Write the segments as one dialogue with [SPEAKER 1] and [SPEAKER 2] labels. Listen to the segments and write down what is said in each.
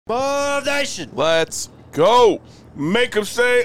[SPEAKER 1] Ball Nation.
[SPEAKER 2] Let's go.
[SPEAKER 3] Make them say,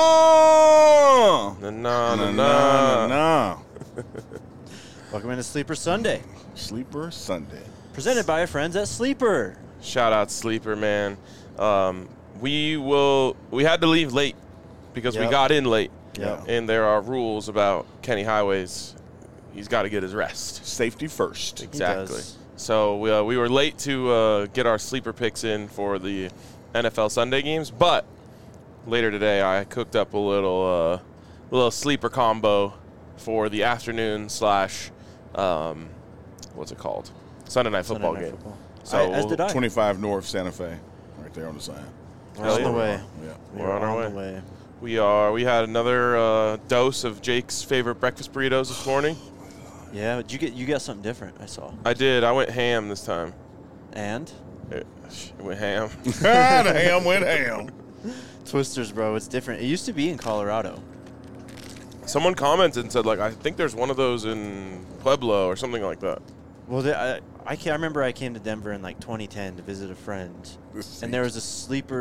[SPEAKER 2] Na na na na.
[SPEAKER 3] nah.
[SPEAKER 1] Welcome into Sleeper Sunday,
[SPEAKER 3] Sleeper Sunday.
[SPEAKER 1] presented by our friends at Sleeper.
[SPEAKER 2] Shout out Sleeper, man. We had to leave late because we
[SPEAKER 1] Yep.
[SPEAKER 2] got in late.
[SPEAKER 1] Yep.
[SPEAKER 2] And there are rules about Kenny Highways. He's got to get his rest.
[SPEAKER 3] Safety first.
[SPEAKER 2] Exactly.
[SPEAKER 1] does.
[SPEAKER 2] So we were late to get our sleeper picks in for the NFL Sunday games, but later today I cooked up a little sleeper combo for the afternoon / what's it called? Sunday night football
[SPEAKER 1] Sunday night
[SPEAKER 2] game.
[SPEAKER 1] football.
[SPEAKER 2] So
[SPEAKER 1] As did I.
[SPEAKER 3] 25 North Santa Fe, right there on the sign.
[SPEAKER 1] We're on the
[SPEAKER 2] yeah.
[SPEAKER 1] way.
[SPEAKER 3] Yeah.
[SPEAKER 2] We're on our
[SPEAKER 1] the way.
[SPEAKER 2] We had another dose of Jake's favorite breakfast burritos this morning.
[SPEAKER 1] Yeah, you got something different, I saw.
[SPEAKER 2] I did. I went ham this time.
[SPEAKER 1] And?
[SPEAKER 2] It went ham.
[SPEAKER 3] The ham went ham.
[SPEAKER 1] Twisters, bro. It's different. It used to be in Colorado.
[SPEAKER 2] Someone commented and said, like, I think there's one of those in Pueblo or something like that.
[SPEAKER 1] Well, I remember I came to Denver in like 2010 to visit a friend, and there was a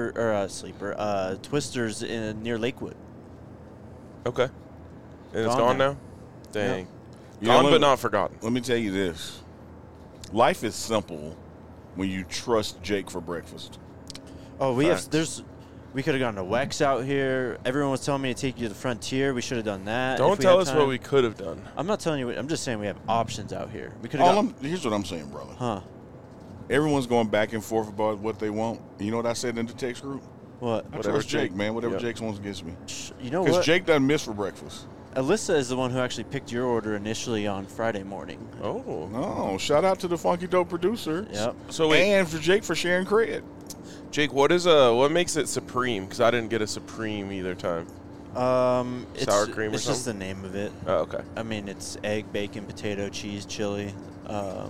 [SPEAKER 1] Twisters near Lakewood.
[SPEAKER 2] Okay. And it's
[SPEAKER 1] Gone
[SPEAKER 2] gone
[SPEAKER 1] now.
[SPEAKER 2] now? Dang.
[SPEAKER 3] You
[SPEAKER 2] Gone
[SPEAKER 3] know,
[SPEAKER 2] but not forgotten.
[SPEAKER 3] Let me tell you this. Life is simple when you trust Jake for breakfast.
[SPEAKER 1] Oh,
[SPEAKER 3] Facts.
[SPEAKER 1] we could have gone to Wex out here. Everyone was telling me to take you to the Frontier. We should have done that.
[SPEAKER 2] Don't
[SPEAKER 1] if we
[SPEAKER 2] tell
[SPEAKER 1] had
[SPEAKER 2] us
[SPEAKER 1] time.
[SPEAKER 2] what we could have done.
[SPEAKER 1] I'm not telling you. I'm just saying we have options out here. We could have gone.
[SPEAKER 3] Here's what I'm saying, brother.
[SPEAKER 1] Huh?
[SPEAKER 3] Everyone's going back and forth about what they want. You know what I said in the text group?
[SPEAKER 1] What?
[SPEAKER 3] I
[SPEAKER 2] Whatever
[SPEAKER 3] trust Jake, man. Whatever
[SPEAKER 2] Yep.
[SPEAKER 3] Jake wants gets me.
[SPEAKER 1] You know
[SPEAKER 3] Because
[SPEAKER 1] what?
[SPEAKER 3] Jake doesn't miss for breakfast.
[SPEAKER 1] Alyssa is the one who actually picked your order initially on Friday morning.
[SPEAKER 2] Oh.
[SPEAKER 3] No, shout out to the Funky Dope producer.
[SPEAKER 1] Yep.
[SPEAKER 2] So wait,
[SPEAKER 3] And for Jake for sharing credit.
[SPEAKER 2] Jake, what makes it supreme? Because I didn't get a supreme either time.
[SPEAKER 1] It's,
[SPEAKER 2] Sour cream or
[SPEAKER 1] It's just the
[SPEAKER 2] something?
[SPEAKER 1] name of it.
[SPEAKER 2] Oh, okay.
[SPEAKER 1] I mean, it's egg, bacon, potato, cheese, chili. I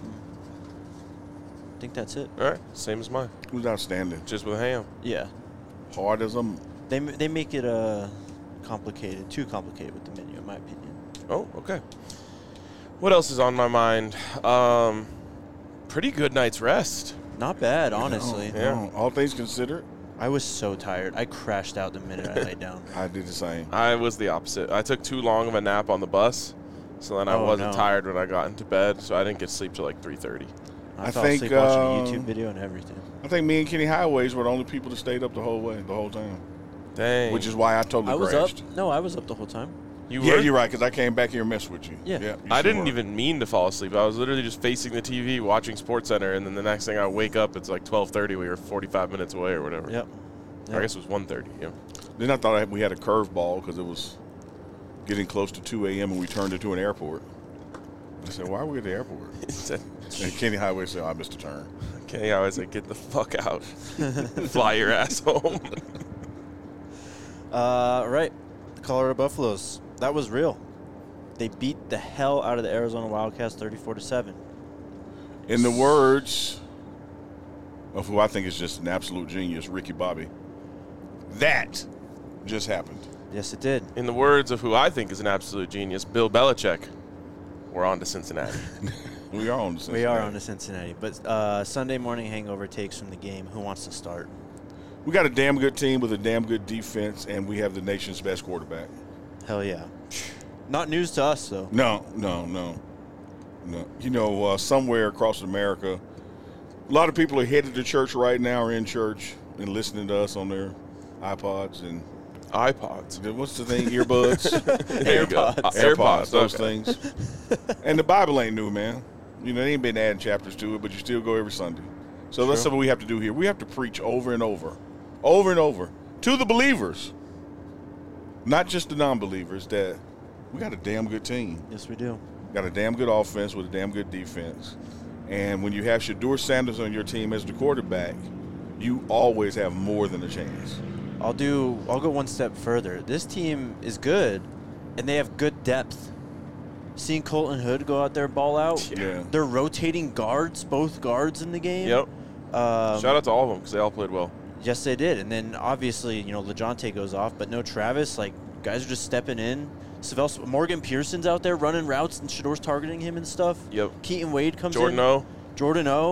[SPEAKER 1] think that's it.
[SPEAKER 2] All right. Same as mine.
[SPEAKER 3] Who's outstanding?
[SPEAKER 2] Just with ham.
[SPEAKER 1] Yeah.
[SPEAKER 3] Hard as a...
[SPEAKER 1] They make it complicated, too complicated with the menu, in my opinion.
[SPEAKER 2] Oh, okay. What else is on my mind? Pretty good night's rest.
[SPEAKER 1] Not bad, honestly.
[SPEAKER 2] Yeah.
[SPEAKER 3] All things considered,
[SPEAKER 1] I was so tired. I crashed out the minute I laid down.
[SPEAKER 3] I did the same.
[SPEAKER 2] I was the opposite. I took too long of a nap on the bus, so then I
[SPEAKER 1] Oh,
[SPEAKER 2] wasn't
[SPEAKER 1] no.
[SPEAKER 2] tired when I got into bed, so I didn't get sleep till like 3:30.
[SPEAKER 1] I
[SPEAKER 3] I
[SPEAKER 1] fell
[SPEAKER 3] think,
[SPEAKER 1] asleep watching a YouTube video and everything.
[SPEAKER 3] I think me and Kenny Highways were the only people that stayed up the whole time.
[SPEAKER 2] Dang.
[SPEAKER 3] Which is why I totally
[SPEAKER 1] I was
[SPEAKER 3] crashed.
[SPEAKER 1] up. No, I was up the whole time.
[SPEAKER 2] You
[SPEAKER 3] Yeah,
[SPEAKER 2] were?
[SPEAKER 3] you're right, because I came back here and messed with you.
[SPEAKER 1] Yeah.
[SPEAKER 3] you
[SPEAKER 2] I
[SPEAKER 3] sure
[SPEAKER 2] didn't
[SPEAKER 3] were.
[SPEAKER 2] even mean to fall asleep. I was literally just facing the TV watching SportsCenter, and then the next thing I wake up, it's like 12:30. We were 45 minutes away or whatever.
[SPEAKER 1] Yep.
[SPEAKER 2] I guess it was 1:30. Yeah.
[SPEAKER 3] Then I thought we had a curveball because it was getting close to 2 a.m. and we turned into an airport. I said, why are we at the airport? And Kenny Highway said, I missed a turn.
[SPEAKER 2] Okay, I was like, get the fuck out. Fly your ass home.
[SPEAKER 1] Right. The Colorado Buffaloes. That was real. They beat the hell out of the Arizona Wildcats 34-7.
[SPEAKER 3] In the words of who I think is just an absolute genius, Ricky Bobby, that just happened.
[SPEAKER 1] Yes, it did.
[SPEAKER 2] In the words of who I think is an absolute genius, Bill Belichick, we're on to Cincinnati.
[SPEAKER 3] We are on the Cincinnati.
[SPEAKER 1] We are on to Cincinnati. But Sunday morning hangover takes from the game. Who wants to start?
[SPEAKER 3] We got a damn good team with a damn good defense, and we have the nation's best quarterback.
[SPEAKER 1] Hell yeah. Not news to us, though.
[SPEAKER 3] No. You know, somewhere across America, a lot of people are headed to church right now or in church and listening to us on their iPods and
[SPEAKER 2] iPods.
[SPEAKER 3] what's the thing? Earbuds?
[SPEAKER 2] There you go.
[SPEAKER 3] AirPods, those
[SPEAKER 2] okay.
[SPEAKER 3] things. And the Bible ain't new, man. You know, they ain't been adding chapters to it, but you still go every Sunday. So that's something we have to do here. We have to preach over and over to the believers, not just the non-believers, that we got a damn good team.
[SPEAKER 1] Yes, we do.
[SPEAKER 3] Got a damn good offense with a damn good defense. And when you have Shedeur Sanders on your team as the quarterback, you always have more than a chance.
[SPEAKER 1] I'll go one step further. This team is good, and they have good depth. Seeing Colton Hood go out there ball out.
[SPEAKER 3] Yeah.
[SPEAKER 1] They're rotating guards, both guards in the game.
[SPEAKER 2] Yep. Shout out to all of them because they all played well.
[SPEAKER 1] Yes, they did. And then obviously, LeJonte goes off, but no Travis. Like, guys are just stepping in. Morgan Pearson's out there running routes, and Shedeur's targeting him and stuff.
[SPEAKER 2] Yep.
[SPEAKER 1] Keaton Wade comes
[SPEAKER 2] Jordan
[SPEAKER 1] in.
[SPEAKER 2] O.
[SPEAKER 1] Jordan O.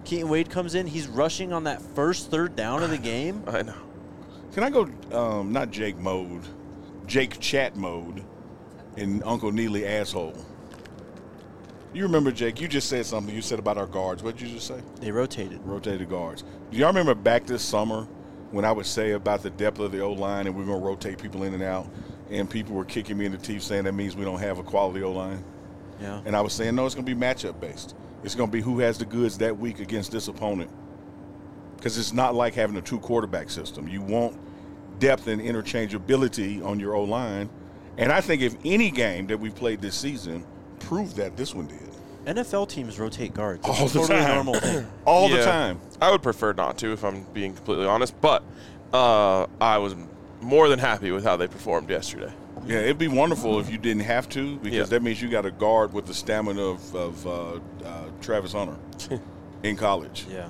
[SPEAKER 1] Keaton Wade comes in. He's rushing on that first third down of the game.
[SPEAKER 2] I know.
[SPEAKER 3] Can I go not Jake mode, Jake chat mode in Uncle Neely asshole? You remember, Jake, you just said something you said about our guards. What did you just say?
[SPEAKER 1] They rotated.
[SPEAKER 3] Rotated guards. Do y'all remember back this summer when I would say about the depth of the O-line and we're going to rotate people in and out, and people were kicking me in the teeth saying that means we don't have a quality O-line?
[SPEAKER 1] Yeah.
[SPEAKER 3] And I was saying, no, it's going to be matchup based. It's going to be who has the goods that week against this opponent. Because it's not like having a two-quarterback system. You want depth and interchangeability on your O-line. And I think if any game that we've played this season proved that, this one did.
[SPEAKER 1] NFL teams rotate guards.
[SPEAKER 3] All
[SPEAKER 1] It's
[SPEAKER 3] the
[SPEAKER 1] a totally
[SPEAKER 3] time.
[SPEAKER 1] normal thing.
[SPEAKER 3] All the
[SPEAKER 2] Yeah.
[SPEAKER 3] time.
[SPEAKER 2] I would prefer not to, if I'm being completely honest. But I was more than happy with how they performed yesterday.
[SPEAKER 3] Yeah, it'd be wonderful if you didn't have to, because
[SPEAKER 2] Yeah.
[SPEAKER 3] that means you got a guard with the stamina of Travis Hunter in college.
[SPEAKER 1] Yeah.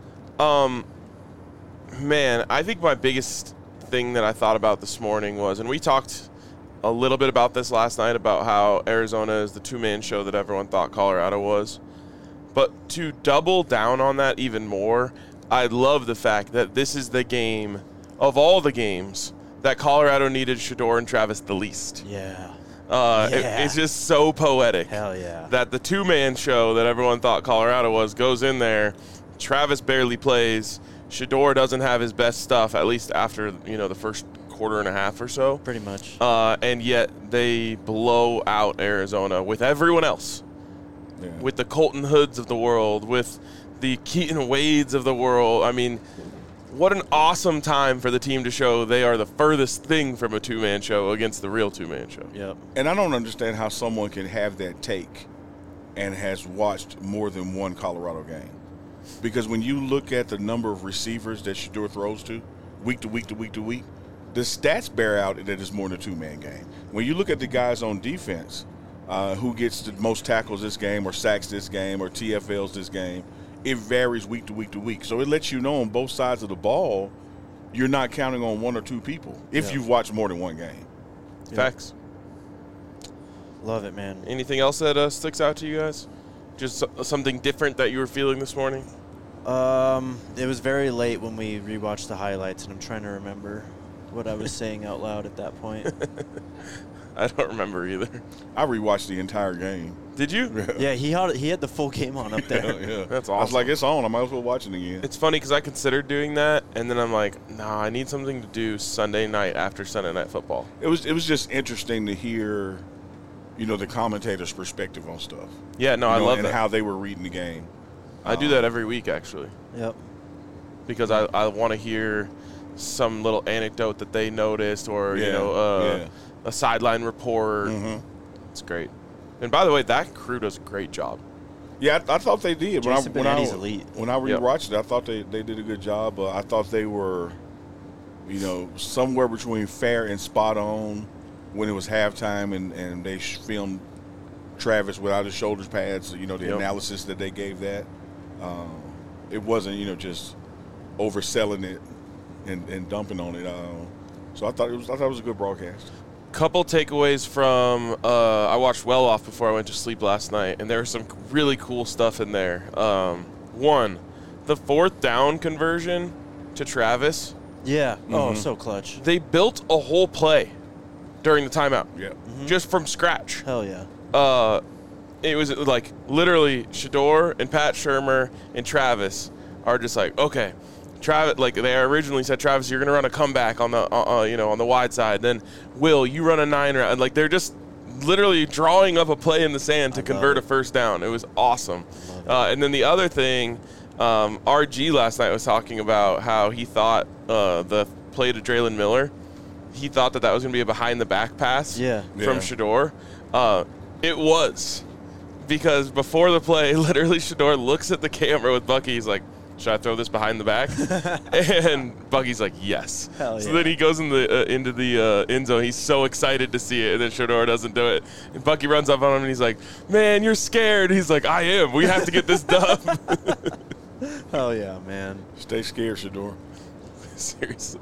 [SPEAKER 2] Man, I think my biggest thing that I thought about this morning was, and we talked a little bit about this last night, about how Arizona is the two-man show that everyone thought Colorado was. But to double down on that even more, I love the fact that this is the game of all the games that Colorado needed Shedeur and Travis the least.
[SPEAKER 1] Yeah.
[SPEAKER 2] It's just so poetic.
[SPEAKER 1] Hell yeah.
[SPEAKER 2] That the two-man show that everyone thought Colorado was goes in there. Travis barely plays. Shedeur doesn't have his best stuff, at least after the first quarter and a half or so.
[SPEAKER 1] Pretty much.
[SPEAKER 2] And yet they blow out Arizona with everyone else.
[SPEAKER 3] Yeah.
[SPEAKER 2] With the Colton Hoods of the world, with the Keaton Wades of the world. I mean, what an awesome time for the team to show they are the furthest thing from a two-man show against the real two-man show.
[SPEAKER 1] Yep.
[SPEAKER 3] And I don't understand how someone can have that take and has watched more than one Colorado game. Because when you look at the number of receivers that Shedeur throws to, week to week to week to week, the stats bear out that it's more than a two-man game. When you look at the guys on defense, who gets the most tackles this game or sacks this game or TFLs this game, it varies week to week to week. So it lets you know on both sides of the ball, you're not counting on one or two people if you've watched more than one game.
[SPEAKER 1] Yeah.
[SPEAKER 2] Facts.
[SPEAKER 1] Love it, man.
[SPEAKER 2] Anything else that sticks out to you guys? Just something different that you were feeling this morning?
[SPEAKER 1] It was very late when we rewatched the highlights, and I'm trying to remember what I was saying out loud at that point.
[SPEAKER 2] I don't remember either.
[SPEAKER 3] I rewatched the entire game.
[SPEAKER 2] Did you?
[SPEAKER 1] Yeah, he had the full game on up there.
[SPEAKER 3] Yeah.
[SPEAKER 2] That's
[SPEAKER 3] I was
[SPEAKER 2] awesome.
[SPEAKER 3] like, it's on. I might as well watch it again.
[SPEAKER 2] It's funny because I considered doing that, and then I'm like, nah, I need something to do Sunday night after Sunday Night Football.
[SPEAKER 3] It was just interesting to hear, the commentator's perspective on stuff.
[SPEAKER 2] Yeah, no, I love
[SPEAKER 3] and
[SPEAKER 2] that.
[SPEAKER 3] how they were reading the game.
[SPEAKER 2] I do that every week, actually,
[SPEAKER 1] Yep.
[SPEAKER 2] because I want to hear some little anecdote that they noticed or,
[SPEAKER 3] Yeah.
[SPEAKER 2] a sideline report.
[SPEAKER 3] Mm-hmm.
[SPEAKER 2] It's great. And by the way, that crew does a great job.
[SPEAKER 3] Yeah, I thought they did.
[SPEAKER 1] Jason Benetti's elite.
[SPEAKER 3] When I rewatched it, I thought they did a good job. I thought they were, somewhere between fair and spot on when it was halftime, and they filmed Travis without his shoulder pads. The analysis that they gave that. It wasn't, just overselling it and dumping on it. So I thought it was a good broadcast.
[SPEAKER 2] Couple takeaways from I watched Well Off before I went to sleep last night, and there was some really cool stuff in there. One, the fourth down conversion to Travis.
[SPEAKER 1] Yeah.
[SPEAKER 3] Mm-hmm.
[SPEAKER 1] Oh, so clutch.
[SPEAKER 2] They built a whole play during the timeout,
[SPEAKER 3] Yeah.
[SPEAKER 2] just from scratch.
[SPEAKER 1] Hell yeah.
[SPEAKER 2] It was like literally Shedeur and Pat Shurmur and Travis are just like, okay, Travis, like they originally said, Travis, you're gonna run a comeback on the on the wide side. Then Will, you run a 9 route. Like they're just literally drawing up a play in the sand to convert a first down. It was awesome. And then the other thing, RG last night was talking about how he thought the play to Draylon Miller, he thought that was gonna be a behind the back pass
[SPEAKER 1] Yeah.
[SPEAKER 2] from Shedeur. It was. Because before the play, literally Shedeur looks at the camera with Bucky. He's like, should I throw this behind the back? And Bucky's like, yes.
[SPEAKER 1] Hell
[SPEAKER 2] So
[SPEAKER 1] yeah.
[SPEAKER 2] then he goes into the end zone. He's so excited to see it, and then Shedeur doesn't do it. And Bucky runs up on him, and he's like, man, you're scared. He's like, I am. We have to get this done.
[SPEAKER 1] Hell yeah, man.
[SPEAKER 3] Stay scared, Shedeur.
[SPEAKER 2] Seriously.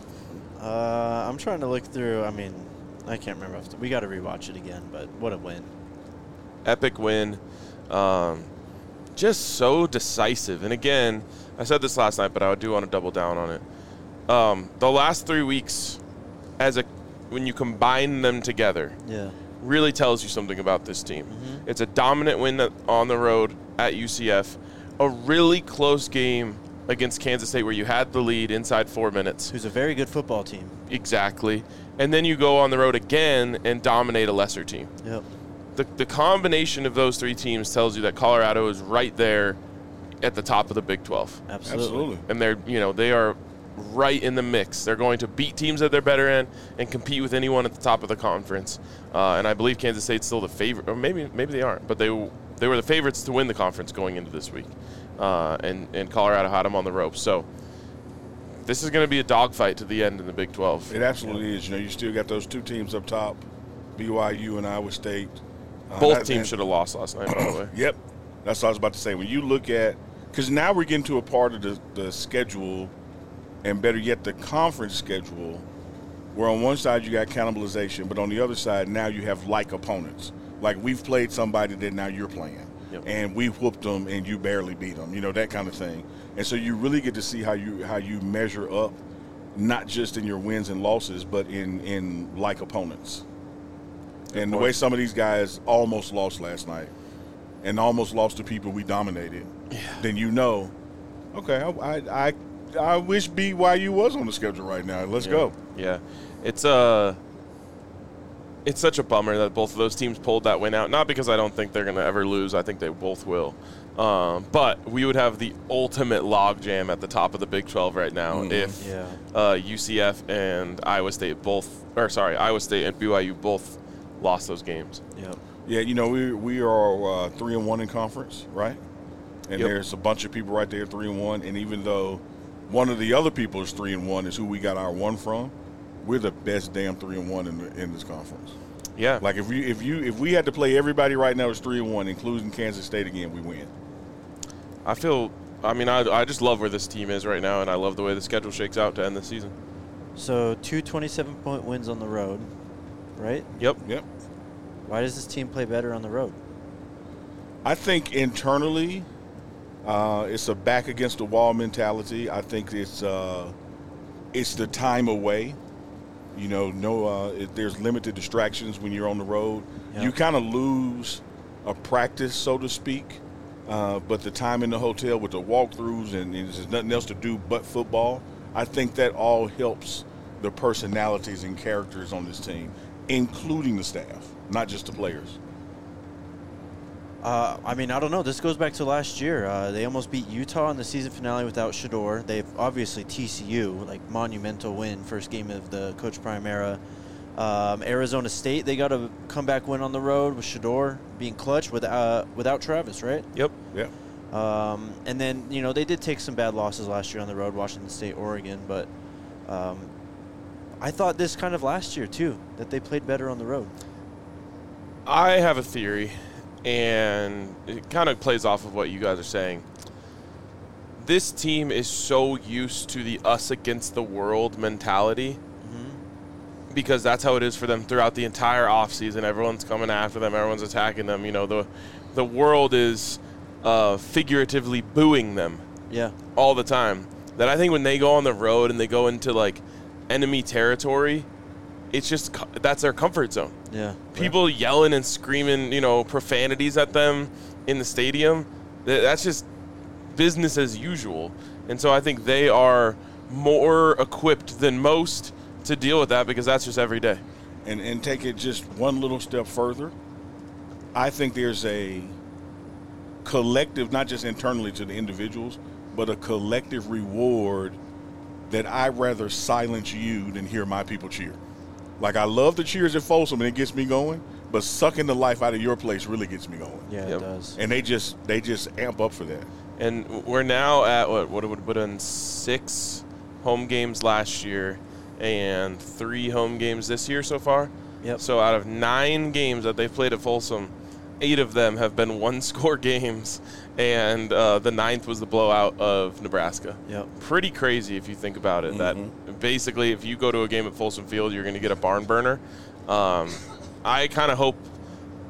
[SPEAKER 1] I'm trying to look through. I mean, I can't remember. We got to rewatch it again, but what a win.
[SPEAKER 2] Epic win. just so decisive. And again, I said this last night, but I do want to double down on it. The last 3 weeks, when you combine them together, really tells you something about this team. Mm-hmm. It's a dominant win on the road at UCF, a really close game against Kansas State where you had the lead inside 4 minutes.
[SPEAKER 1] Who's a very good football team.
[SPEAKER 2] Exactly. And then you go on the road again and dominate a lesser team.
[SPEAKER 1] Yep.
[SPEAKER 2] The combination of those three teams tells you that Colorado is right there at the top of the Big 12.
[SPEAKER 1] Absolutely.
[SPEAKER 2] And they are right in the mix. They're going to beat teams at their better end and compete with anyone at the top of the conference. And I believe Kansas State's still the favorite, or maybe they aren't, but they were the favorites to win the conference going into this week. And Colorado had them on the ropes. So this is going to be a dogfight to the end in the Big 12.
[SPEAKER 3] It absolutely is. You still got those two teams up top, BYU and Iowa State.
[SPEAKER 2] Both teams should have lost last night, by the way.
[SPEAKER 3] Yep. That's what I was about to say. When you look at – because now we're getting to a part of the schedule, and better yet, the conference schedule, where on one side you got cannibalization, but on the other side now you have like opponents. Like we've played somebody that now you're playing. Yep. And we whooped them and you barely beat them, that kind of thing. And so you really get to see how you measure up, not just in your wins and losses, but in like opponents. And the way some of these guys almost lost last night and almost lost to people we dominated, then okay, I wish BYU was on the schedule right now. Let's go.
[SPEAKER 2] Yeah. It's such a bummer that both of those teams pulled that win out. Not because I don't think they're going to ever lose. I think they both will. But we would have the ultimate logjam at the top of the Big 12 right now if UCF and Iowa State and BYU both lost those games.
[SPEAKER 3] Yep. Yeah, we are 3-1 in conference, right? And there's a bunch of people right there 3-1. And even though one of the other people is 3-1 is who we got our one from, we're the best damn 3-1 in this conference.
[SPEAKER 2] Yeah.
[SPEAKER 3] Like if we had to play everybody right now as 3-1, including Kansas State again, we win.
[SPEAKER 2] I just love where this team is right now, and I love the way the schedule shakes out to end the season.
[SPEAKER 1] So 2 27-point wins on the road, right?
[SPEAKER 2] Yep.
[SPEAKER 1] Why does this team play better on the road?
[SPEAKER 3] I think internally, it's a back against the wall mentality. I think it's the time away. There's limited distractions when you're on the road. Yep. You kind of lose a practice, so to speak. But the time in the hotel with the walkthroughs and there's nothing else to do but football, I think that all helps the personalities and characters on this team, including the staff, not just the players.
[SPEAKER 1] I don't know. This goes back to last year. They almost beat Utah in the season finale without Shedeur. They've obviously TCU, monumental win, first game of the Coach Prime era. Arizona State, they got a comeback win on the road with Shedeur being clutch without Travis, right?
[SPEAKER 2] Yep.
[SPEAKER 1] And then, they did take some bad losses last year on the road, Washington State, Oregon. But I thought this kind of last year, too, that they played better on the road.
[SPEAKER 2] I have a theory, and it kind of plays off of what you guys are saying. This team is so used to the us against the world mentality because that's how it is for them throughout the entire offseason. Everyone's coming after them. Everyone's attacking them. The world is figuratively booing them all the time. That I think when they go on the road and they go into, enemy territory, it's just that's their comfort zone.
[SPEAKER 1] Yeah.
[SPEAKER 2] People yelling and screaming, profanities at them in the stadium, that's just business as usual. And so I think they are more equipped than most to deal with that because that's just every day.
[SPEAKER 3] And take it just one little step further. I think there's a collective, not just internally to the individuals, but a collective reward that I'd rather silence you than hear my people cheer. I love the cheers at Folsom, and it gets me going, but sucking the life out of your place really gets me going.
[SPEAKER 1] Yeah, it does.
[SPEAKER 3] And they just amp up for that.
[SPEAKER 2] And we're now at, what would have been 6 home games last year and 3 home games this year so far.
[SPEAKER 1] Yep.
[SPEAKER 2] So out of 9 games that they've played at Folsom, 8 of them have been one-score games, and the 9th was the blowout of Nebraska.
[SPEAKER 1] Yep. Pretty
[SPEAKER 2] crazy if you think about it. That basically, if you go to a game at Folsom Field, you're going to get a barn burner. I kind of hope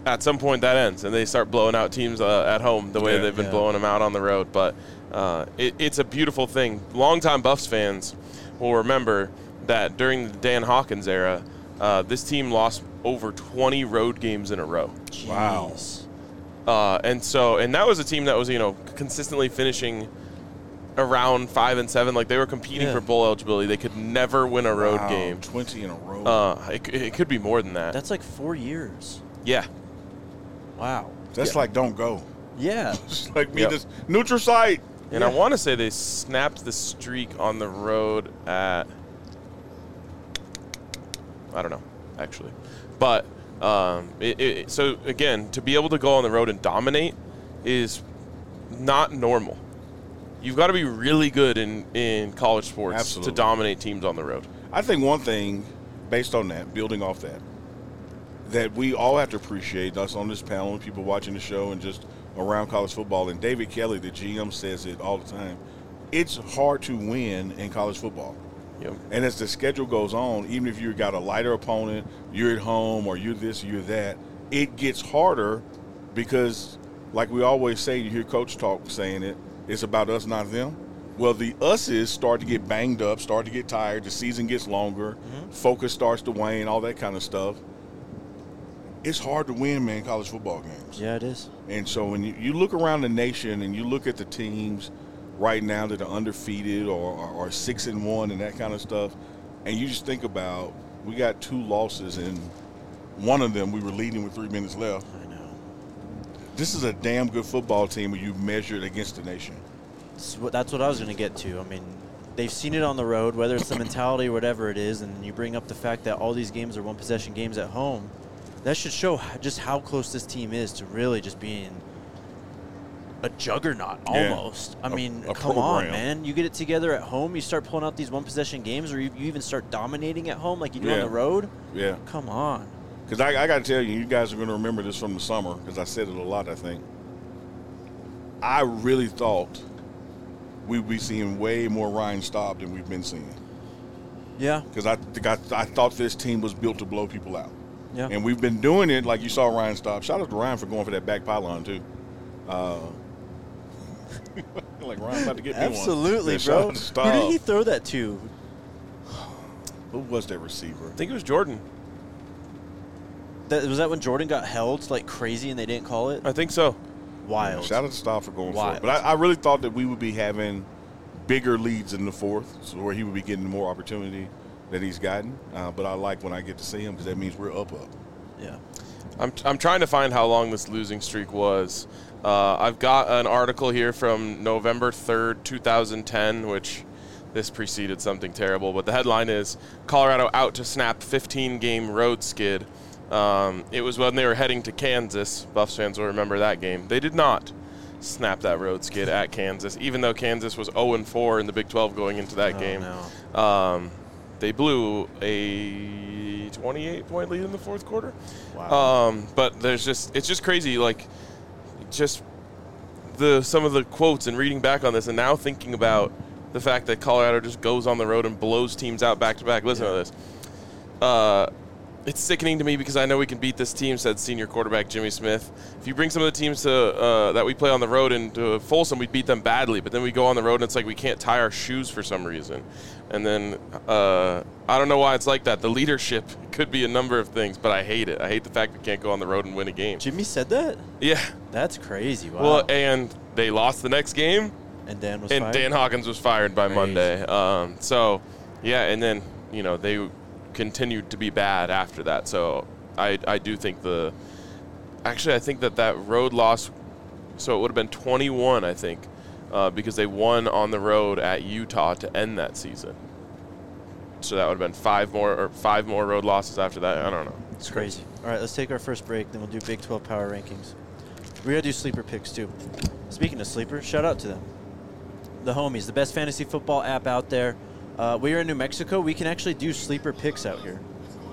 [SPEAKER 2] at some point that ends, and they start blowing out teams at home the way they've been blowing them out on the road. But it's a beautiful thing. Longtime Buffs fans will remember that during the Dan Hawkins era, this team lost over 20 road games in a row.
[SPEAKER 1] Jeez.
[SPEAKER 3] Wow.
[SPEAKER 2] And that was a team that was, consistently finishing around 5 and 7. Like, they were competing for bowl eligibility. They could never win a road game.
[SPEAKER 3] 20 in a row.
[SPEAKER 2] It could be more than that.
[SPEAKER 1] That's like 4 years.
[SPEAKER 2] Yeah.
[SPEAKER 1] Wow.
[SPEAKER 3] That's like don't go.
[SPEAKER 1] Yeah.
[SPEAKER 3] It's like me this neutral site.
[SPEAKER 2] And I want to say they snapped the streak on the road at, I don't know, actually. But so, again, to be able to go on the road and dominate is not normal. You've got to be really good in college sports to dominate teams on the road.
[SPEAKER 3] I think one thing, based on that, building off that we all have to appreciate, us on this panel, people watching the show and just around college football, and David Kelly, the GM, says it all the time, it's hard to win in college football.
[SPEAKER 2] Yep.
[SPEAKER 3] And as the schedule goes on, even if you've got a lighter opponent, you're at home or you're this, you're that, it gets harder because, like we always say, you hear Coach Talk saying it, it's about us, not them. Well, the us's start to get banged up, start to get tired, the season gets longer, focus starts to wane, all that kind of stuff. It's hard to win, man, college football games.
[SPEAKER 1] Yeah, it is.
[SPEAKER 3] And so when you look around the nation and you look at the teams right now that are undefeated or 6-1 and that kind of stuff, and you just think about, we got 2 losses, and one of them we were leading with 3 minutes left.
[SPEAKER 1] I know.
[SPEAKER 3] This is a damn good football team when you measure it against the nation.
[SPEAKER 1] That's what I was going to get to. I mean, they've seen it on the road, whether it's the mentality or whatever it is, and you bring up the fact that all these games are one-possession games at home. That should show just how close this team is to really just being a juggernaut almost. I mean, come on, man. You get it together at home, you start pulling out these one-possession games, or you even start dominating at home like you do on the road.
[SPEAKER 3] Yeah.
[SPEAKER 1] Come on.
[SPEAKER 3] Because I got to tell you, you guys are going to remember this from the summer because I said it a lot, I think. I really thought we'd be seeing way more Ryan Staub than we've been seeing.
[SPEAKER 1] Yeah.
[SPEAKER 3] Because I thought this team was built to blow people out.
[SPEAKER 1] Yeah.
[SPEAKER 3] And we've been doing it like you saw Ryan Staub. Shout out to Ryan for going for that back pylon, too. Like Ryan's about to get me one.
[SPEAKER 1] Absolutely, bro. Who did he throw that to?
[SPEAKER 3] Who was that receiver?
[SPEAKER 2] I think it was Jordan.
[SPEAKER 1] Was that when Jordan got held like crazy and they didn't call it?
[SPEAKER 2] I think so.
[SPEAKER 1] Wild.
[SPEAKER 3] Yeah, shout out to Staub for going for it. But I really thought that we would be having bigger leads in the fourth, so where he would be getting more opportunity that he's gotten. But I like when I get to see him because that means we're up.
[SPEAKER 1] Yeah.
[SPEAKER 2] I'm trying to find how long this losing streak was. I've got an article here from November 3rd, 2010, which this preceded something terrible. But the headline is, Colorado out to snap 15-game road skid. It was when they were heading to Kansas. Buffs fans will remember that game. They did not snap that road skid at Kansas, even though Kansas was 0-4 in the Big 12 going into that game.
[SPEAKER 1] No.
[SPEAKER 2] They blew a 28-point lead in the fourth quarter.
[SPEAKER 1] Wow.
[SPEAKER 2] But it's just crazy. Like, just some of the quotes and reading back on this, and now thinking about the fact that Colorado just goes on the road and blows teams out back to back. Listen to this. It's sickening to me because I know we can beat this team, said senior quarterback Jimmy Smith. If you bring some of the teams that we play on the road into Folsom, we beat them badly. But then we go on the road and it's like we can't tie our shoes for some reason. And then I don't know why it's like that. The leadership could be a number of things, but I hate it. I hate the fact we can't go on the road and win a game.
[SPEAKER 1] Jimmy said that?
[SPEAKER 2] Yeah.
[SPEAKER 1] That's crazy. Wow.
[SPEAKER 2] Well, and they lost the next game.
[SPEAKER 1] And Dan was
[SPEAKER 2] fired? And Dan Hawkins was fired by Monday. So, yeah, and then, they continued to be bad after that. So I do think I think that road loss, so it would have been 21, I think, because they won on the road at Utah to end that season. So that would have been five more road losses after that. I don't know.
[SPEAKER 1] It's crazy. All right, let's take our first break, then we'll do Big 12 power rankings. We got to do sleeper picks, too. Speaking of sleepers, shout out to them. The homies, the best fantasy football app out there. We are in New Mexico. We can actually do sleeper picks out here.